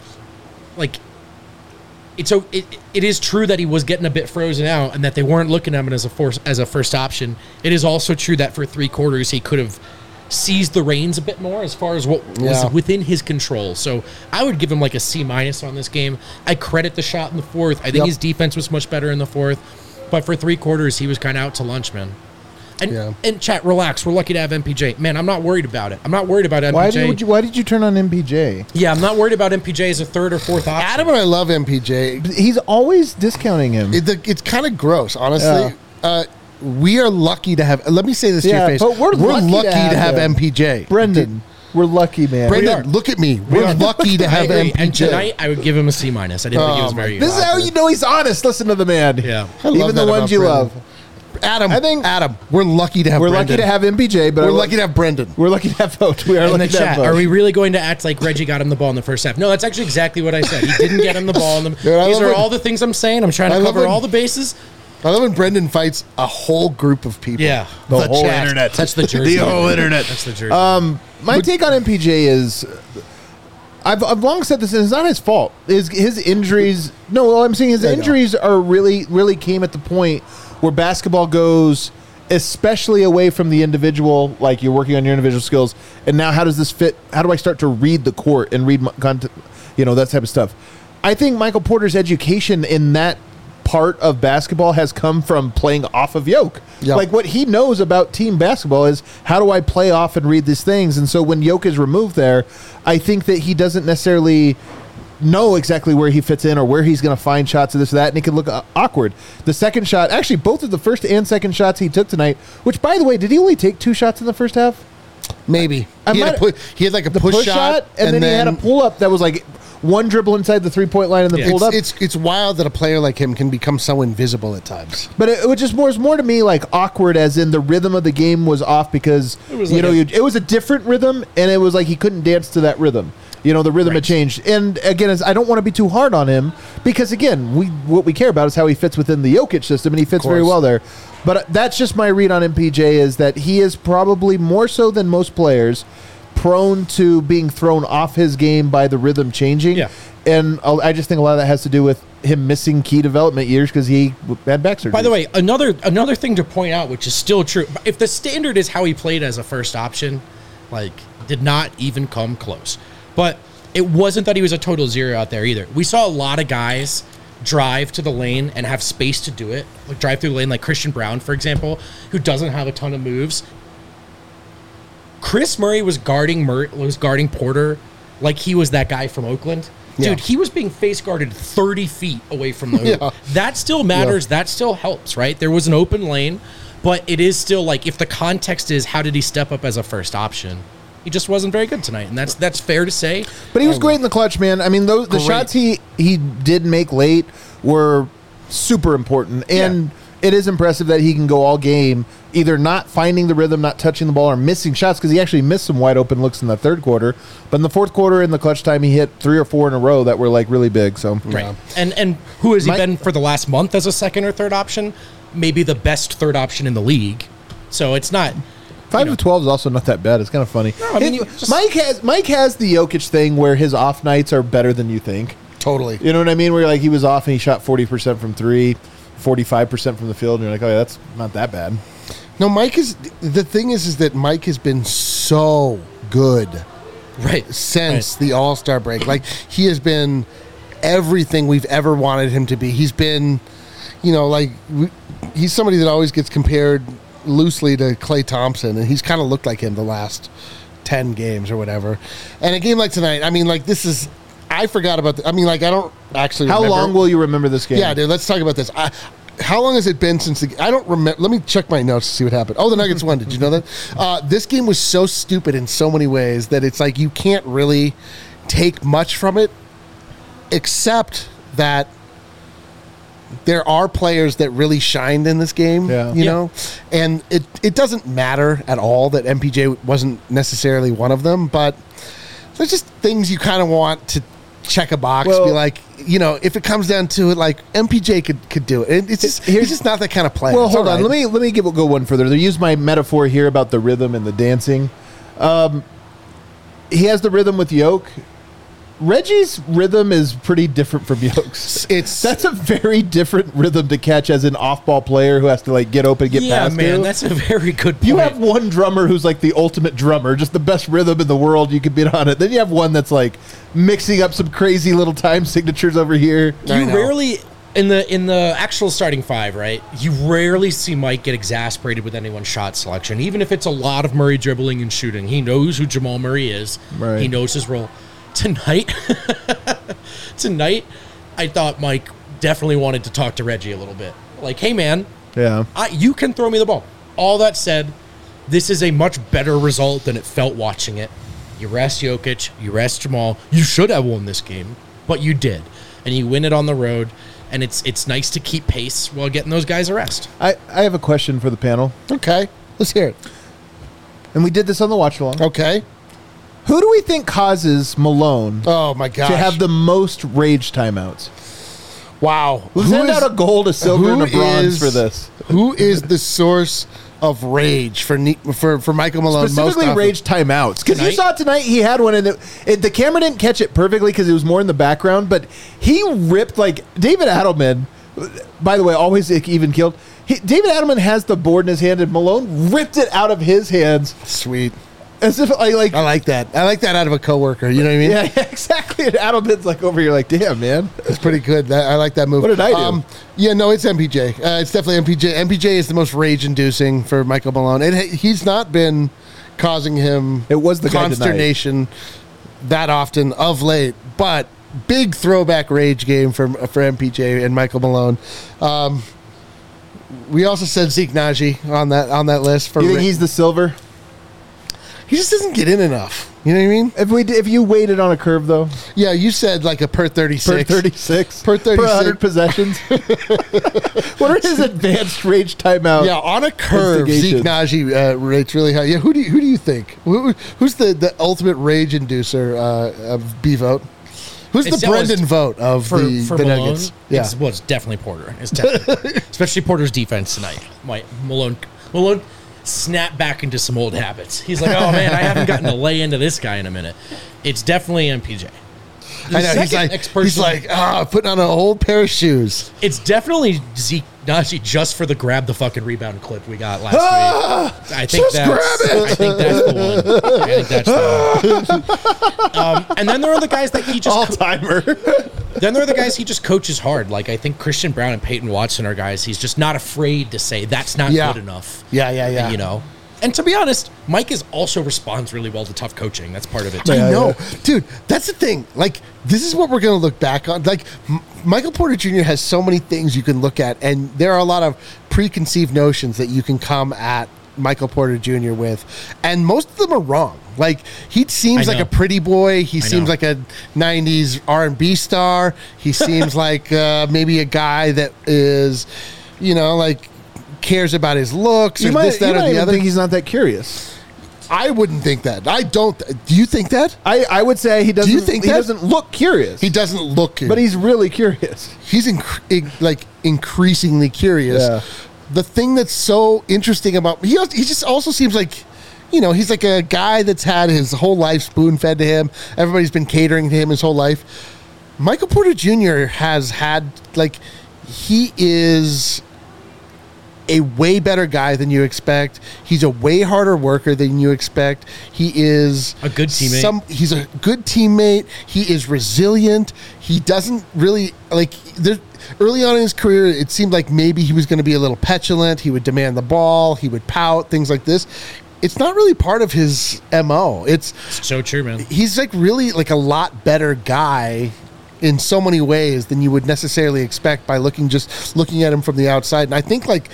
like, it's a, it, it is true that he was getting a bit frozen out and that they weren't looking at him as a force as a first option. It is also true that for three quarters he could have seized the reins a bit more as far as what Yeah. was within his control. So I would give him like a C minus on this game. I credit the shot in the fourth. I think Yep. his defense was much better in the fourth, but for three quarters he was kind of out to lunch, man. And, Yeah. and chat, relax. We're lucky to have M P J. Man, I'm not worried about it. I'm not worried about M P J. Why did would you, why did you turn on M P J? Yeah, I'm not worried about M P J as a third or fourth option. Adam and I love M P J. He's always discounting him. It, the, it's kind of gross, honestly. Yeah. Uh, we are lucky to have. Let me say this Yeah, to your face. but we're lucky to have him. M P J. Brendan, we're lucky, man. Brendan, look at me. We're are. lucky to I have agree. M P J. And tonight, I would give him a C minus. I didn't think he Oh, was my very This good. is how you know he's honest. Listen to the man. Yeah. I love Even that the ones about you Brendan. love. Adam, I think- Adam, we're lucky to have We're Brendan. lucky to have M P J, but We're I- lucky to have Brendan. We're lucky to have vote. We are In the lucky to have chat, vote. are we really going to act like Reggie got him the ball in the first half? No, that's actually exactly what I said. He didn't get him the ball. In the, Dude, I these love are when- all the things I'm saying. I'm trying to I love cover when- all the bases. I love when Brendan fights a whole group of people. Yeah. The The whole chat. internet. That's the jersey. The whole internet. That's the jersey. Um, my take on M P J is, I've, I've long said this, and it's not his fault. His his injuries. No, well, I'm saying his I know. injuries are really really came at the point where basketball goes, especially away from the individual. Like you're working on your individual skills, and now how does this fit? How do I start to read the court and read my content? You know, that type of stuff. I think Michael Porter's education in that part of basketball has come from playing off of Yoke. Yep. Like what he knows about team basketball is how do I play off and read these things. And so when Yoke is removed there, I think that he doesn't necessarily know exactly where he fits in or where he's going to find shots of this or that, and he can look uh, awkward. The second shot, actually, both of the first and second shots he took tonight, which, by the way, did he only take two shots in the first half? Maybe. I He had, a might- pu- he had like a The push, push, shot, shot, and, then, he had a pull-up that was like one dribble inside the three-point line and then Yeah. pulled It's, up. it's it's wild that a player like him can become so invisible at times. But it, it was just more, it was more to me like awkward, as in the rhythm of the game was off because It was you like know a- you, it was a different rhythm, and it was like he couldn't dance to that rhythm. You know, the rhythm had Right. changed. And again, it's, I don't want to be too hard on him because again, we what we care about is how he fits within the Jokic system, and he fits very course. well there. But that's just my read on M P J is that he is probably more so than most players prone to being thrown off his game by the rhythm changing. Yeah. And uh, I just think a lot of that has to do with him missing key development years because he had back surgery. By the way, another another thing to point out, which is still true, if the standard is how he played as a first option, like did not even come close. But it wasn't that he was a total zero out there either. We saw a lot of guys drive to the lane and have space to do it, like drive through the lane, like Christian Brown, for example, who doesn't have a ton of moves. Chris Murray was guarding Mur- was guarding Porter like he was that guy from Oakland. Dude, Yeah. he was being face guarded thirty feet away from the hoop. Yeah. That still matters. That still helps, right? There was an open lane, but it is still like if the context is how did he step up as a first option? He just wasn't very good tonight, and that's that's fair to say. But he was great in the clutch, man. I mean, those the Great. shots he he did make late were super important, and it is impressive that he can go all game, either not finding the rhythm, not touching the ball, or missing shots because he actually missed some wide open looks in the third quarter. But in the fourth quarter, in the clutch time, he hit three or four in a row that were like really big. So Right. And and who has he Mike- been for the last month as a second or third option? Maybe the best third option in the league. So it's not. Five you know. to twelve is also not that bad. It's kind of funny. I mean, It- you just- Mike has Mike has the Jokic thing where his off nights are better than you think. Totally. You know what I mean? Where like he was off and he shot forty percent from three, forty-five percent from the field, and you're like, oh yeah, that's not that bad. No, Mike is the thing is is that Mike has been so good Right. since Right. the All Star break. Like he has been everything we've ever wanted him to be. He's been, you know, like we, he's somebody that always gets compared loosely to Klay Thompson, and he's kind of looked like him the last ten games or whatever. And a game like tonight, I mean, like this is. I forgot about. The, I mean, like I don't actually. How remember. long will you remember this game? Yeah, dude. Let's talk about this. I, how long has it been since the? I don't remember. Let me check my notes to see what happened. Oh, the Nuggets won. Did you know that? Uh, this game was so stupid in so many ways that it's like you can't really take much from it, except that there are players that really shined in this game. Yeah. You Yeah. know, and it it doesn't matter at all that M P J wasn't necessarily one of them, but there's just things you kind of want to check a box, Well- be like, you know, if it comes down to it, like M P J could could do it. And it's just Here's- he's just not that kind of player. Well, It's hold all on. right. Let me let me give, go one further. They use my metaphor here about the rhythm and the dancing. Um, he has the rhythm with Yoke. Reggie's rhythm is pretty different from Yoke's. It's That's a very different rhythm to catch as an off-ball player who has to like get open, get Yeah, past man, you. that's a very good point. You have one drummer who's like the ultimate drummer, just the best rhythm in the world. You could beat on it. Then you have one that's like mixing up some crazy little time signatures over here. I you know. rarely in the in the actual starting five, right? You rarely see Mike get exasperated with anyone's shot selection, even if it's a lot of Murray dribbling and shooting. He knows who Jamal Murray is. Right. He knows his role. Tonight, tonight, I thought Mike definitely wanted to talk to Reggie a little bit. Like, hey, man, Yeah. I, you can throw me the ball. All that said, this is a much better result than it felt watching it. You rest Jokic, you rest Jamal. You should have won this game, but you did, and you win it on the road. And it's it's nice to keep pace while getting those guys a rest. I, I have a question for the panel. okay. Let's hear it. And we did this on the watch along. Okay. Who do we think causes Malone Oh my gosh. to have the most rage timeouts? wow. We'll Who send is- out a gold, a silver, and a who bronze is- for this. Who is the source of rage for Ne- for for Michael Malone? most Specifically, often? rage timeouts. Because you Tonight? saw tonight, he had one, and it, it, the camera didn't catch it perfectly because it was more in the background. But he ripped like David Adelman. By the way, always even killed. He, David Adelman has the board in his hand, and Malone ripped it out of his hands Sweet. as if like, like I like that. I like that out of a coworker. You know what I mean? yeah, yeah, exactly. And Adelman's like over here, like, damn, man. It's pretty good. That, I like that move. What did I do? yeah, no, it's M P J. Uh, it's definitely M P J. M P J is the most rage-inducing for Michael Malone. And he- he's not been causing him It was the guy tonight. consternation that often of late. But big throwback rage game for for M P J and Michael Malone. Um, we also said Zeke Naji on that on that list. For You think ra- he's the silver? he just doesn't get in enough. You know what I mean? If we if you weighted on a curve though, Yeah, you said like a per thirty-six. per thirty-six, Per thirty-six. per one hundred possessions. What are his advanced rage timeout? Yeah, on a curve, Zeke Instigations. Naji uh, rates really high. Yeah, who do you, who do you think? Who, who's the, the ultimate rage inducer uh, of B vote? Who's It's the always- Brendan vote of For, the, for the Malone, Nuggets? Yeah, it's, well, it's definitely Porter. It's definitely, especially Porter's defense tonight. My Malone, Malone snapped back into some old habits. He's like, oh man, I haven't gotten to lay into this guy in a minute. It's definitely M P J. The I know. He's second like, ex-person- he's like, ah, putting on an old pair of shoes. it's dedefinitely Zeke Naji just for the grab the fucking rebound clip we got last Ah, week. I think just that's, grab it. I think that's the one. I think that's the one. Um, and then there are the guys that he just all timer. Then there are the guys he just coaches hard. Like, I think Christian Brown and Peyton Watson are guys he's just not afraid to say that's not Yeah. good enough. Yeah, yeah, yeah. You know? And to be honest, Mike is also responds really well to tough coaching. That's part of it, too. I Yeah, know, yeah. dude. That's the thing. Like, this is what we're going to look back on. Like, M- Michael Porter Junior has so many things you can look at, and there are a lot of preconceived notions that you can come at Michael Porter Junior with, and most of them are wrong. Like, he seems I like know. a pretty boy. He I seems know. like a nineties R and B star. He seems like uh, maybe a guy that is, you know, like cares about his looks You or might, this, that, you or might the even other. think he's not that curious. I wouldn't think that. I don't. Do you think that? I, I would say he doesn't. you think he that? doesn't look curious? He doesn't look, but he's really curious. he's inc- in- like increasingly curious. Yeah. The thing that's so interesting about he, he just also seems like, you know, he's like a guy that's had his whole life spoon fed to him. Everybody's been catering to him his whole life. Michael Porter Junior has had like he is a way better guy than you expect. He's a way harder worker than you expect. He is A good teammate. Some, he's a good teammate. He is resilient. He doesn't really like. There, early on in his career, it seemed like maybe he was going to be a little petulant. He would demand the ball. He would pout. Things like this. It's not really part of his M O. It's So true, man. he's like really like a lot better guy in so many ways than you would necessarily expect by looking just looking at him from the outside. And I think like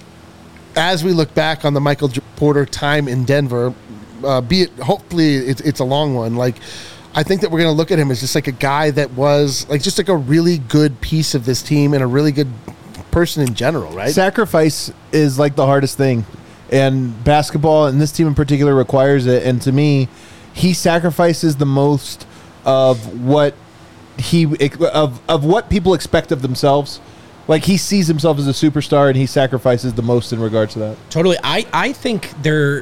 as we look back on the Michael J- Porter time in Denver, uh, be it hopefully it's, it's a long one, like I think that we're going to look at him as just like a guy that was like just like a really good piece of this team and a really good person in general, right? Sacrifice is like the hardest thing, and basketball and this team in particular requires it. And to me, he sacrifices the most of what he of of what people expect of themselves. Like, he sees himself as a superstar, and he sacrifices the most in regards to that. Totally. I, I think there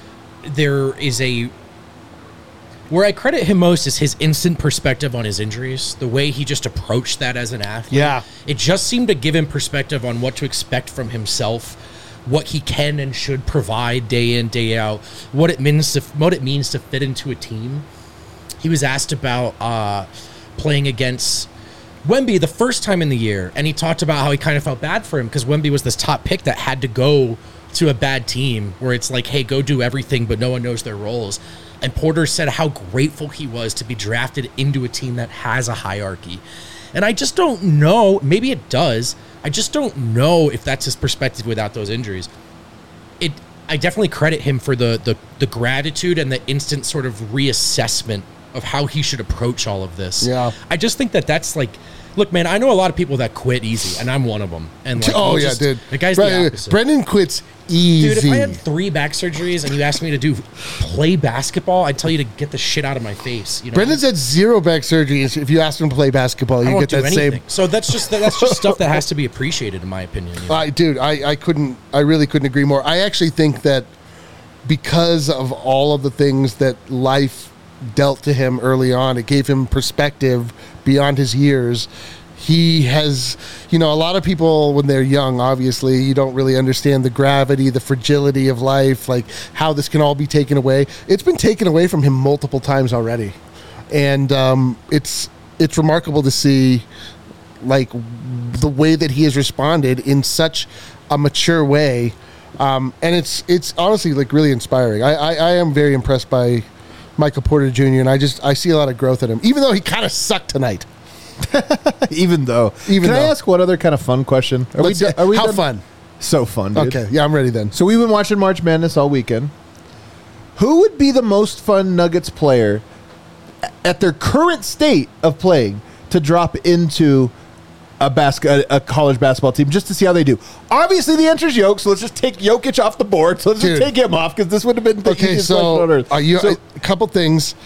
there is a where I credit him most is his instant perspective on his injuries, the way he just approached that as an athlete. Yeah. It just seemed to give him perspective on what to expect from himself, what he can and should provide day in, day out, what it means to what it means to fit into a team. He was asked about uh, playing against Wemby the first time in the year, and he talked about how he kind of felt bad for him because Wemby was this top pick that had to go to a bad team where it's like, hey, go do everything, but no one knows their roles. And Porter said how grateful he was to be drafted into a team that has a hierarchy. And I just don't know. Maybe it does. I just don't know if that's his perspective without those injuries. It. I definitely credit him for the the, the gratitude and the instant sort of reassessment of how he should approach all of this. Yeah. I just think that that's like, look, man, I know a lot of people that quit easy, and I'm one of them. And like, oh he yeah, just- dude. the guy's Bre- the opposite. Brendan quits easy. Dude, if I had three back surgeries and you asked me to do play basketball, I'd tell you to get the shit out of my face. You know, Brendan's had zero back surgeries. If you asked him to play basketball, I you don't get do that anything. same. So that's just that's just stuff that has to be appreciated, in my opinion. you know? I, dude, I, I couldn't, I really couldn't agree more. I actually think that because of all of the things that life dealt to him early on, it gave him perspective beyond his years. He has, you know, a lot of people when they're young, obviously, you don't really understand the gravity, the fragility of life, like how this can all be taken away. It's been taken away from him multiple times already. And um, it's it's remarkable to see, like, the way that he has responded in such a mature way. Um, and it's it's honestly, like, really inspiring. I, I, I am very impressed by Michael Porter Junior, and I just I see a lot of growth in him, even though he kind of sucked tonight. Even though. Even Can I though. ask one other kind of fun question? Are Let's- do- are we how done? fun? So fun, dude. Okay, yeah, I'm ready then. So we've been watching March Madness all weekend. Who would be the most fun Nuggets player at their current state of playing to drop into a basket, a college basketball team, just to see how they do? Obviously, the answer is Jokic, so let's just take Jokic off the board. So let's Dude. just take him off because this would have been the Okay, easiest question on so, earth. are you, So- a couple things.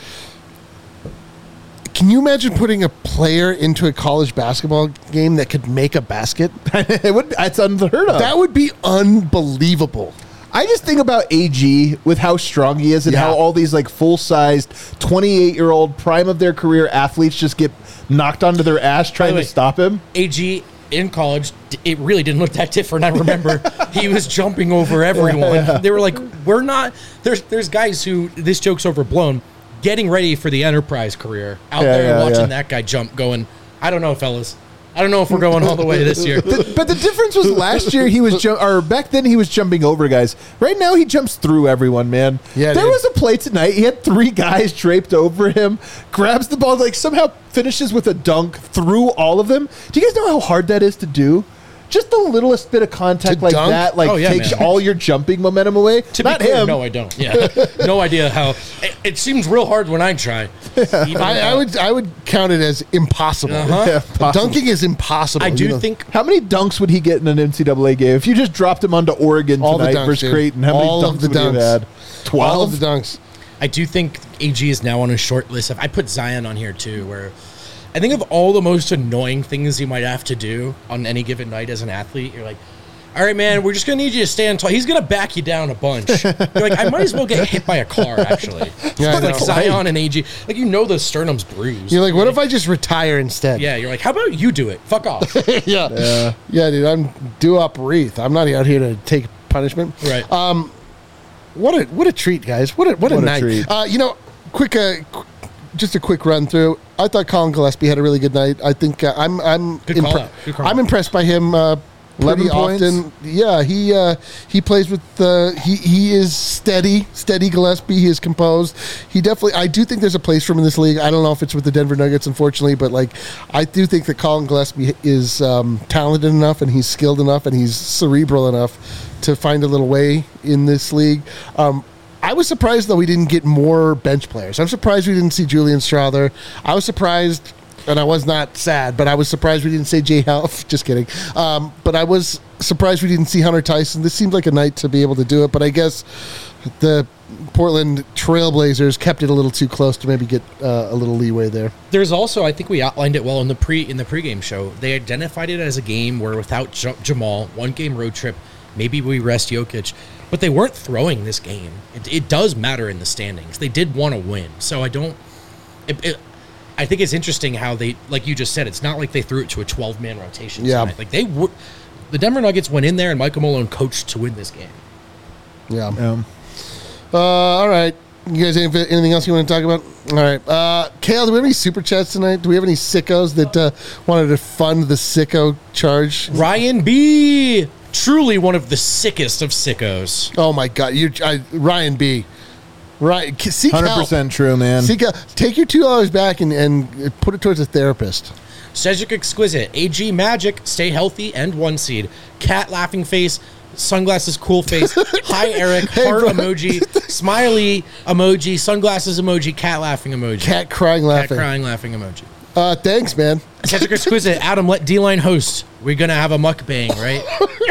Can you imagine putting a player into a college basketball game that could make a basket? it would. It's unheard of. That would be unbelievable. I just think about A G with how strong he is and Yeah. how all these like full-sized twenty-eight-year-old prime of their career athletes just get knocked onto their ass trying way, to stop him. A G in college, d- it really didn't look that different. I remember he was jumping over everyone. They were like, "We're not." There's there's guys who this joke's overblown, getting ready for the enterprise career out Yeah, there yeah, watching yeah. that guy jump, going, "I don't know, fellas. I don't know if we're going all the way this year." The- but the difference was last year he was ju- or back then he was jumping over guys. Right now he jumps through everyone, man. Yeah, there dude. was a play tonight. He had three guys draped over him, grabs the ball, like somehow finishes with a dunk through all of them. Do you guys know how hard that is to do? Just the littlest bit of contact To like dunk? that, like Oh, yeah, takes man. all your jumping momentum away. To Not be clear, him. no, I don't. Yeah, no idea how. It, it seems real hard when I try. Even I, I though- would I would count it as impossible. Uh-huh. Yeah, possible. Dunking is impossible. I you do know. think How many dunks would he get in an N C double A game if you just dropped him onto Oregon All the tonight dunks, versus dude. Creighton? How many All dunks of the would he have dunks. had? Twelve. all of the dunks. I do think A G is now on a short list of. I put Zion on here too, where I think of all the most annoying things you might have to do on any given night as an athlete. You're like, all right, man, we're just gonna need you to stand tall. He's gonna back you down a bunch. You're like, I might as well get hit by a car. Actually, Yeah, I like know. Zion and A G, like you know the sternum's bruised. You're like, what if I just retire instead? Yeah, you're like, how about you do it? Fuck off. yeah, yeah, yeah, dude. I'm due up wreath. I'm not out here to take punishment. Right. Um, what a what a treat, guys. What a what, What a a night. treat. Uh, you know, quick, uh, qu- just a quick run through. I thought Colin Gillespie had a really good night. I think uh, I'm I'm Good call out. Good call I'm out. impressed by him. Uh, Pretty eleven points? often, yeah. He uh, he plays with uh, he he is steady, steady Gillespie. He is composed. He definitely. I do think there's a place for him in this league. I don't know if it's with the Denver Nuggets, unfortunately, but like I do think that Colin Gillespie is um, talented enough and he's skilled enough and he's cerebral enough to find a little way in this league. Um, I was surprised though we didn't get more bench players. I'm surprised we didn't see Julian Strother. I was surprised. And I was not sad, but I was surprised we didn't say Jay Half. Just kidding. Um, but I was surprised we didn't see Hunter Tyson. This seemed like a night to be able to do it, but I guess the Portland Trailblazers kept it a little too close to maybe get uh, a little leeway there. There's also, I think we outlined it well in the pre in the pregame show. They identified it as a game where without J- Jamal, one game road trip, maybe we rest Jokic, but they weren't throwing this game. It, it does matter in the standings. They did want to win, so I don't. It, it, I think it's interesting how they, like you just said, it's not like they threw it to a twelve man rotation. Yeah. Tonight. Like they would, the Denver Nuggets went in there and Michael Malone coached to win this game. Yeah. Um, Uh, all right. You guys, any- anything else you want to talk about? All right. Uh, Kale, do we have any super chats tonight? Do we have any sickos that uh, wanted to fund the sicko charge? Ryan B, truly one of the sickest of sickos. Oh my God, you, I, Ryan B. Ryan, seek one hundred help. percent true, man. Seek help. Take your two dollars back and, and put it towards a therapist. Cedric Exquisite, A G Magic, stay healthy, and one seed. Cat laughing face, sunglasses cool face. Hi Eric, heart bro. emoji, smiley emoji, sunglasses emoji, cat laughing emoji. Cat crying, Cat laughing. crying laughing emoji. Uh, thanks, man. Cedric Exquisite, Adam, let D-Line host. We're going to have a mukbang, right?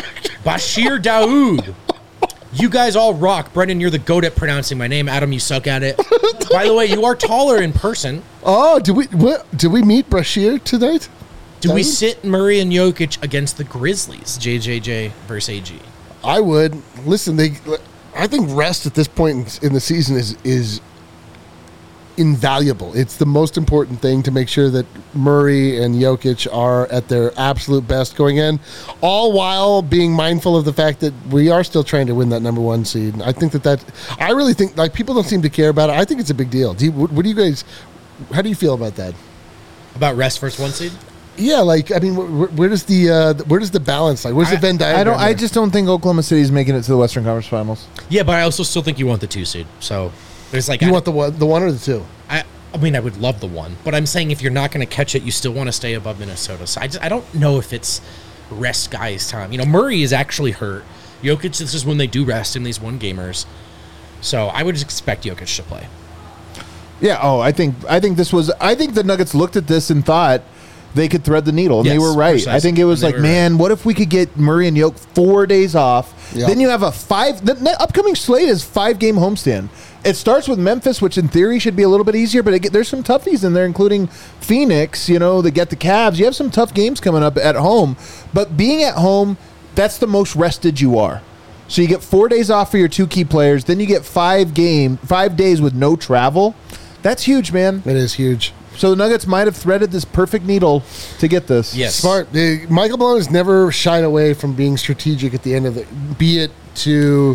Bashir Daoud. You guys all rock. Brendan, you're the goat at pronouncing my name. Adam, you suck at it. By the way, you are taller in person. Oh, did we what, did we meet Brashear tonight? Do we Daoud? sit Murray and Jokic against the Grizzlies? J J J versus A G. I would listen. They, I think rest at this point in the season is is invaluable. It's the most important thing to make sure that Murray and Jokic are at their absolute best going in, all while being mindful of the fact that we are still trying to win that number one seed. I think that that I really think like people don't seem to care about it. I think it's a big deal. Do you, what, what do you guys? How do you feel about that? About rest versus one seed? Yeah, like I mean, where, where does the uh, where does the balance like? Where's the I- Venn diagram? I don't. I there? just don't think Oklahoma City's making it to the Western Conference Finals. Yeah, but I also still think you want the two seed. So there's like you I, want the one, the one or the two? I I mean, I would love the one, but I'm saying if you're not going to catch it, you still want to stay above Minnesota. So I just I don't know if it's rest guys' time. You know, Murray is actually hurt. Jokic, this is when they do rest in these one gamers. So I would expect Jokic to play. Yeah. Oh, I think I think this was. I think the Nuggets looked at this and thought they could thread the needle, and Yes, they were right. precisely. I think it was And they like, were man, what if we could get Murray and Yoke four days off? Yeah. Then you have a five. The ne- upcoming slate is five game homestand. It starts with Memphis, which in theory should be a little bit easier, but it, get- there's some toughies in there, including Phoenix. You know, they get the Cavs. You have some tough games coming up at home, but being at home, that's the most rested you are. So you get four days off for your two key players. Then you get five game, five days with no travel. That's huge, man. It is huge. So the Nuggets might have threaded this perfect needle to get this. Yes. Smart. The, Michael Malone has never shied away from being strategic at the end of it, be it to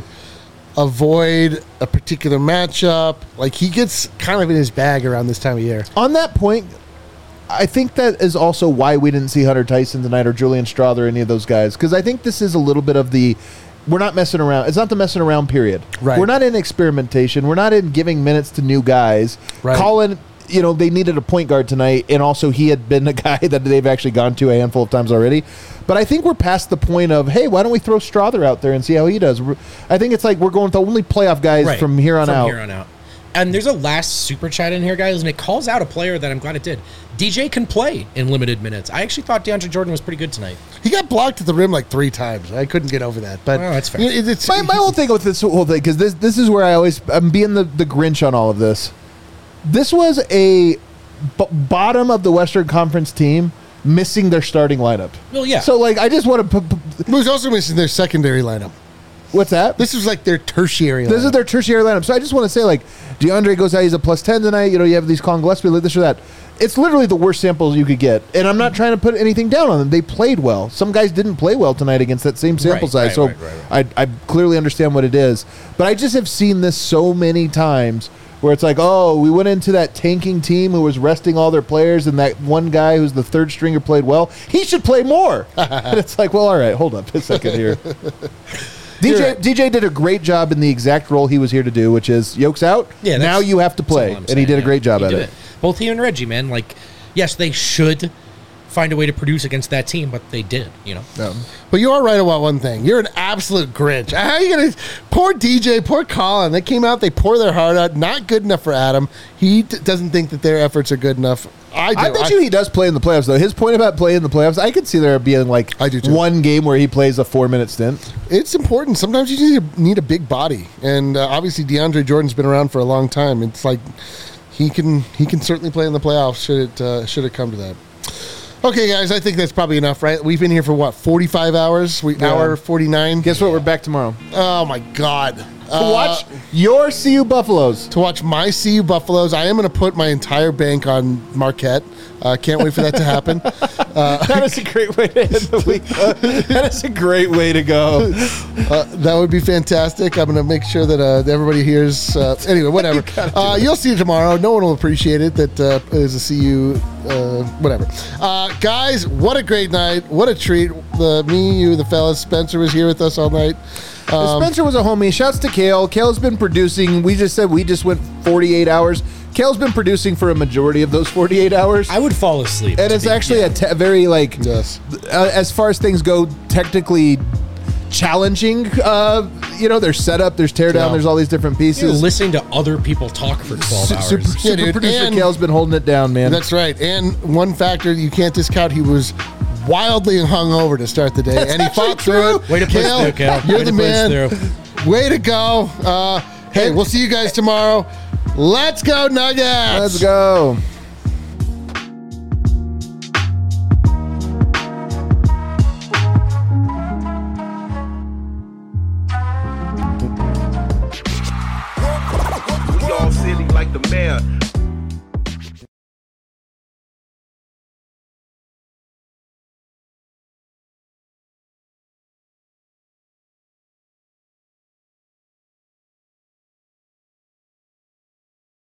avoid a particular matchup. Like, he gets kind of in his bag around this time of year. On that point, I think that is also why we didn't see Hunter Tyson tonight or Julian Straub or any of those guys. Because I think this is a little bit of the, we're not messing around. It's not the messing around period. Right. We're not in experimentation. We're not in giving minutes to new guys. Right. Colin, you know, they needed a point guard tonight, and also he had been a guy that they've actually gone to a handful of times already. But I think we're past the point of, hey, why don't we throw Strother out there and see how he does? We're- I think it's like we're going to only playoff guys Right. from here on From out. here on out. And there's a last super chat in here, guys, and it calls out a player that I'm glad it did. D J can play in limited minutes. I actually thought DeAndre Jordan was pretty good tonight. He got blocked at the rim like three times. I couldn't get over that. But Oh, that's fair. It, it's, My, my whole thing with this whole thing, because this this is where I always I'm being the, the Grinch on all of this. This was a b- bottom of the Western Conference team missing their starting lineup. Well, yeah. So like I just want to put. He was also missing their secondary lineup. What's that? This was like their tertiary This lineup. is their tertiary lineup. So I just want to say, like, DeAndre goes out, he's a plus ten tonight. You know, you have these Colin Gillespie, like this or that. It's literally the worst samples you could get. And I'm not trying to put anything down on them. They played well. Some guys didn't play well tonight against that same sample Right, size. right, so right, right, I, I clearly understand what it is. But I just have seen this so many times where it's like, oh, we went into that tanking team who was resting all their players, and that one guy who's the third stringer played well. He should play more. And it's like, well, all right, hold up a second here. D J You're right. D J did a great job in the exact role he was here to do, which is Yoke's out. Yeah, now that's- you have to that's all play, I'm and he saying, did a yeah. great job He at did it. Both he and Reggie, man. Like, yes, they should find a way to produce against that team, but they did, you know. Um, But you are right about one thing. You're an absolute Grinch. How are you going to... Poor D J, poor Colin. They came out, they pour their heart out. Not good enough for Adam. He d- doesn't think that their efforts are good enough. I do. I bet you he does play in the playoffs, though. His point about playing in the playoffs, I could see there being like I do too. one game where he plays a four-minute stint. It's important. Sometimes you just need a, need a big body. And uh, obviously DeAndre Jordan's been around for a long time. It's like he can he can certainly play in the playoffs should it, uh, should it come to that. Okay, guys, I think that's probably enough, right? We've been here for, what, forty-five hours? We, Yeah. Hour forty-nine? Guess what? We're back tomorrow Oh, my God. to watch your C U Buffaloes. to watch my C U Buffaloes. I am going to put my entire bank on Marquette. Uh, can't wait for that to happen. That is a great way to end the week. That is a great way to go. Uh, that would be fantastic. I'm going to make sure that uh, everybody hears. Uh, anyway, whatever. Uh, you'll see it tomorrow. No one will appreciate it. That uh, is a C U, uh, whatever. Uh, guys, what a great night. What a treat. The Me, you, the fellas. Spencer was here with us all night. Um, Spencer was a homie. Shouts to Kale. Kale's been producing. We just said we just went forty-eight hours. Kale's been producing for a majority of those forty-eight hours. I would fall asleep. And to it's be- actually yeah. a te- very, like, Yes. uh, as far as things go, technically challenging. Uh, you know, there's setup, there's teardown, Yeah. there's all these different You're pieces. listening to other people talk for twelve Su- hours. Super, super dude, producer and- Kale's been holding it down, man. That's right. And one factor you can't discount, he was wildly hungover to start the day. That's and he actually fought through it. Way to push through, Kale. You're Way the to push man. through. Way to go. Uh, hey, we'll see you guys tomorrow. Let's go, Nuggets. Let's go.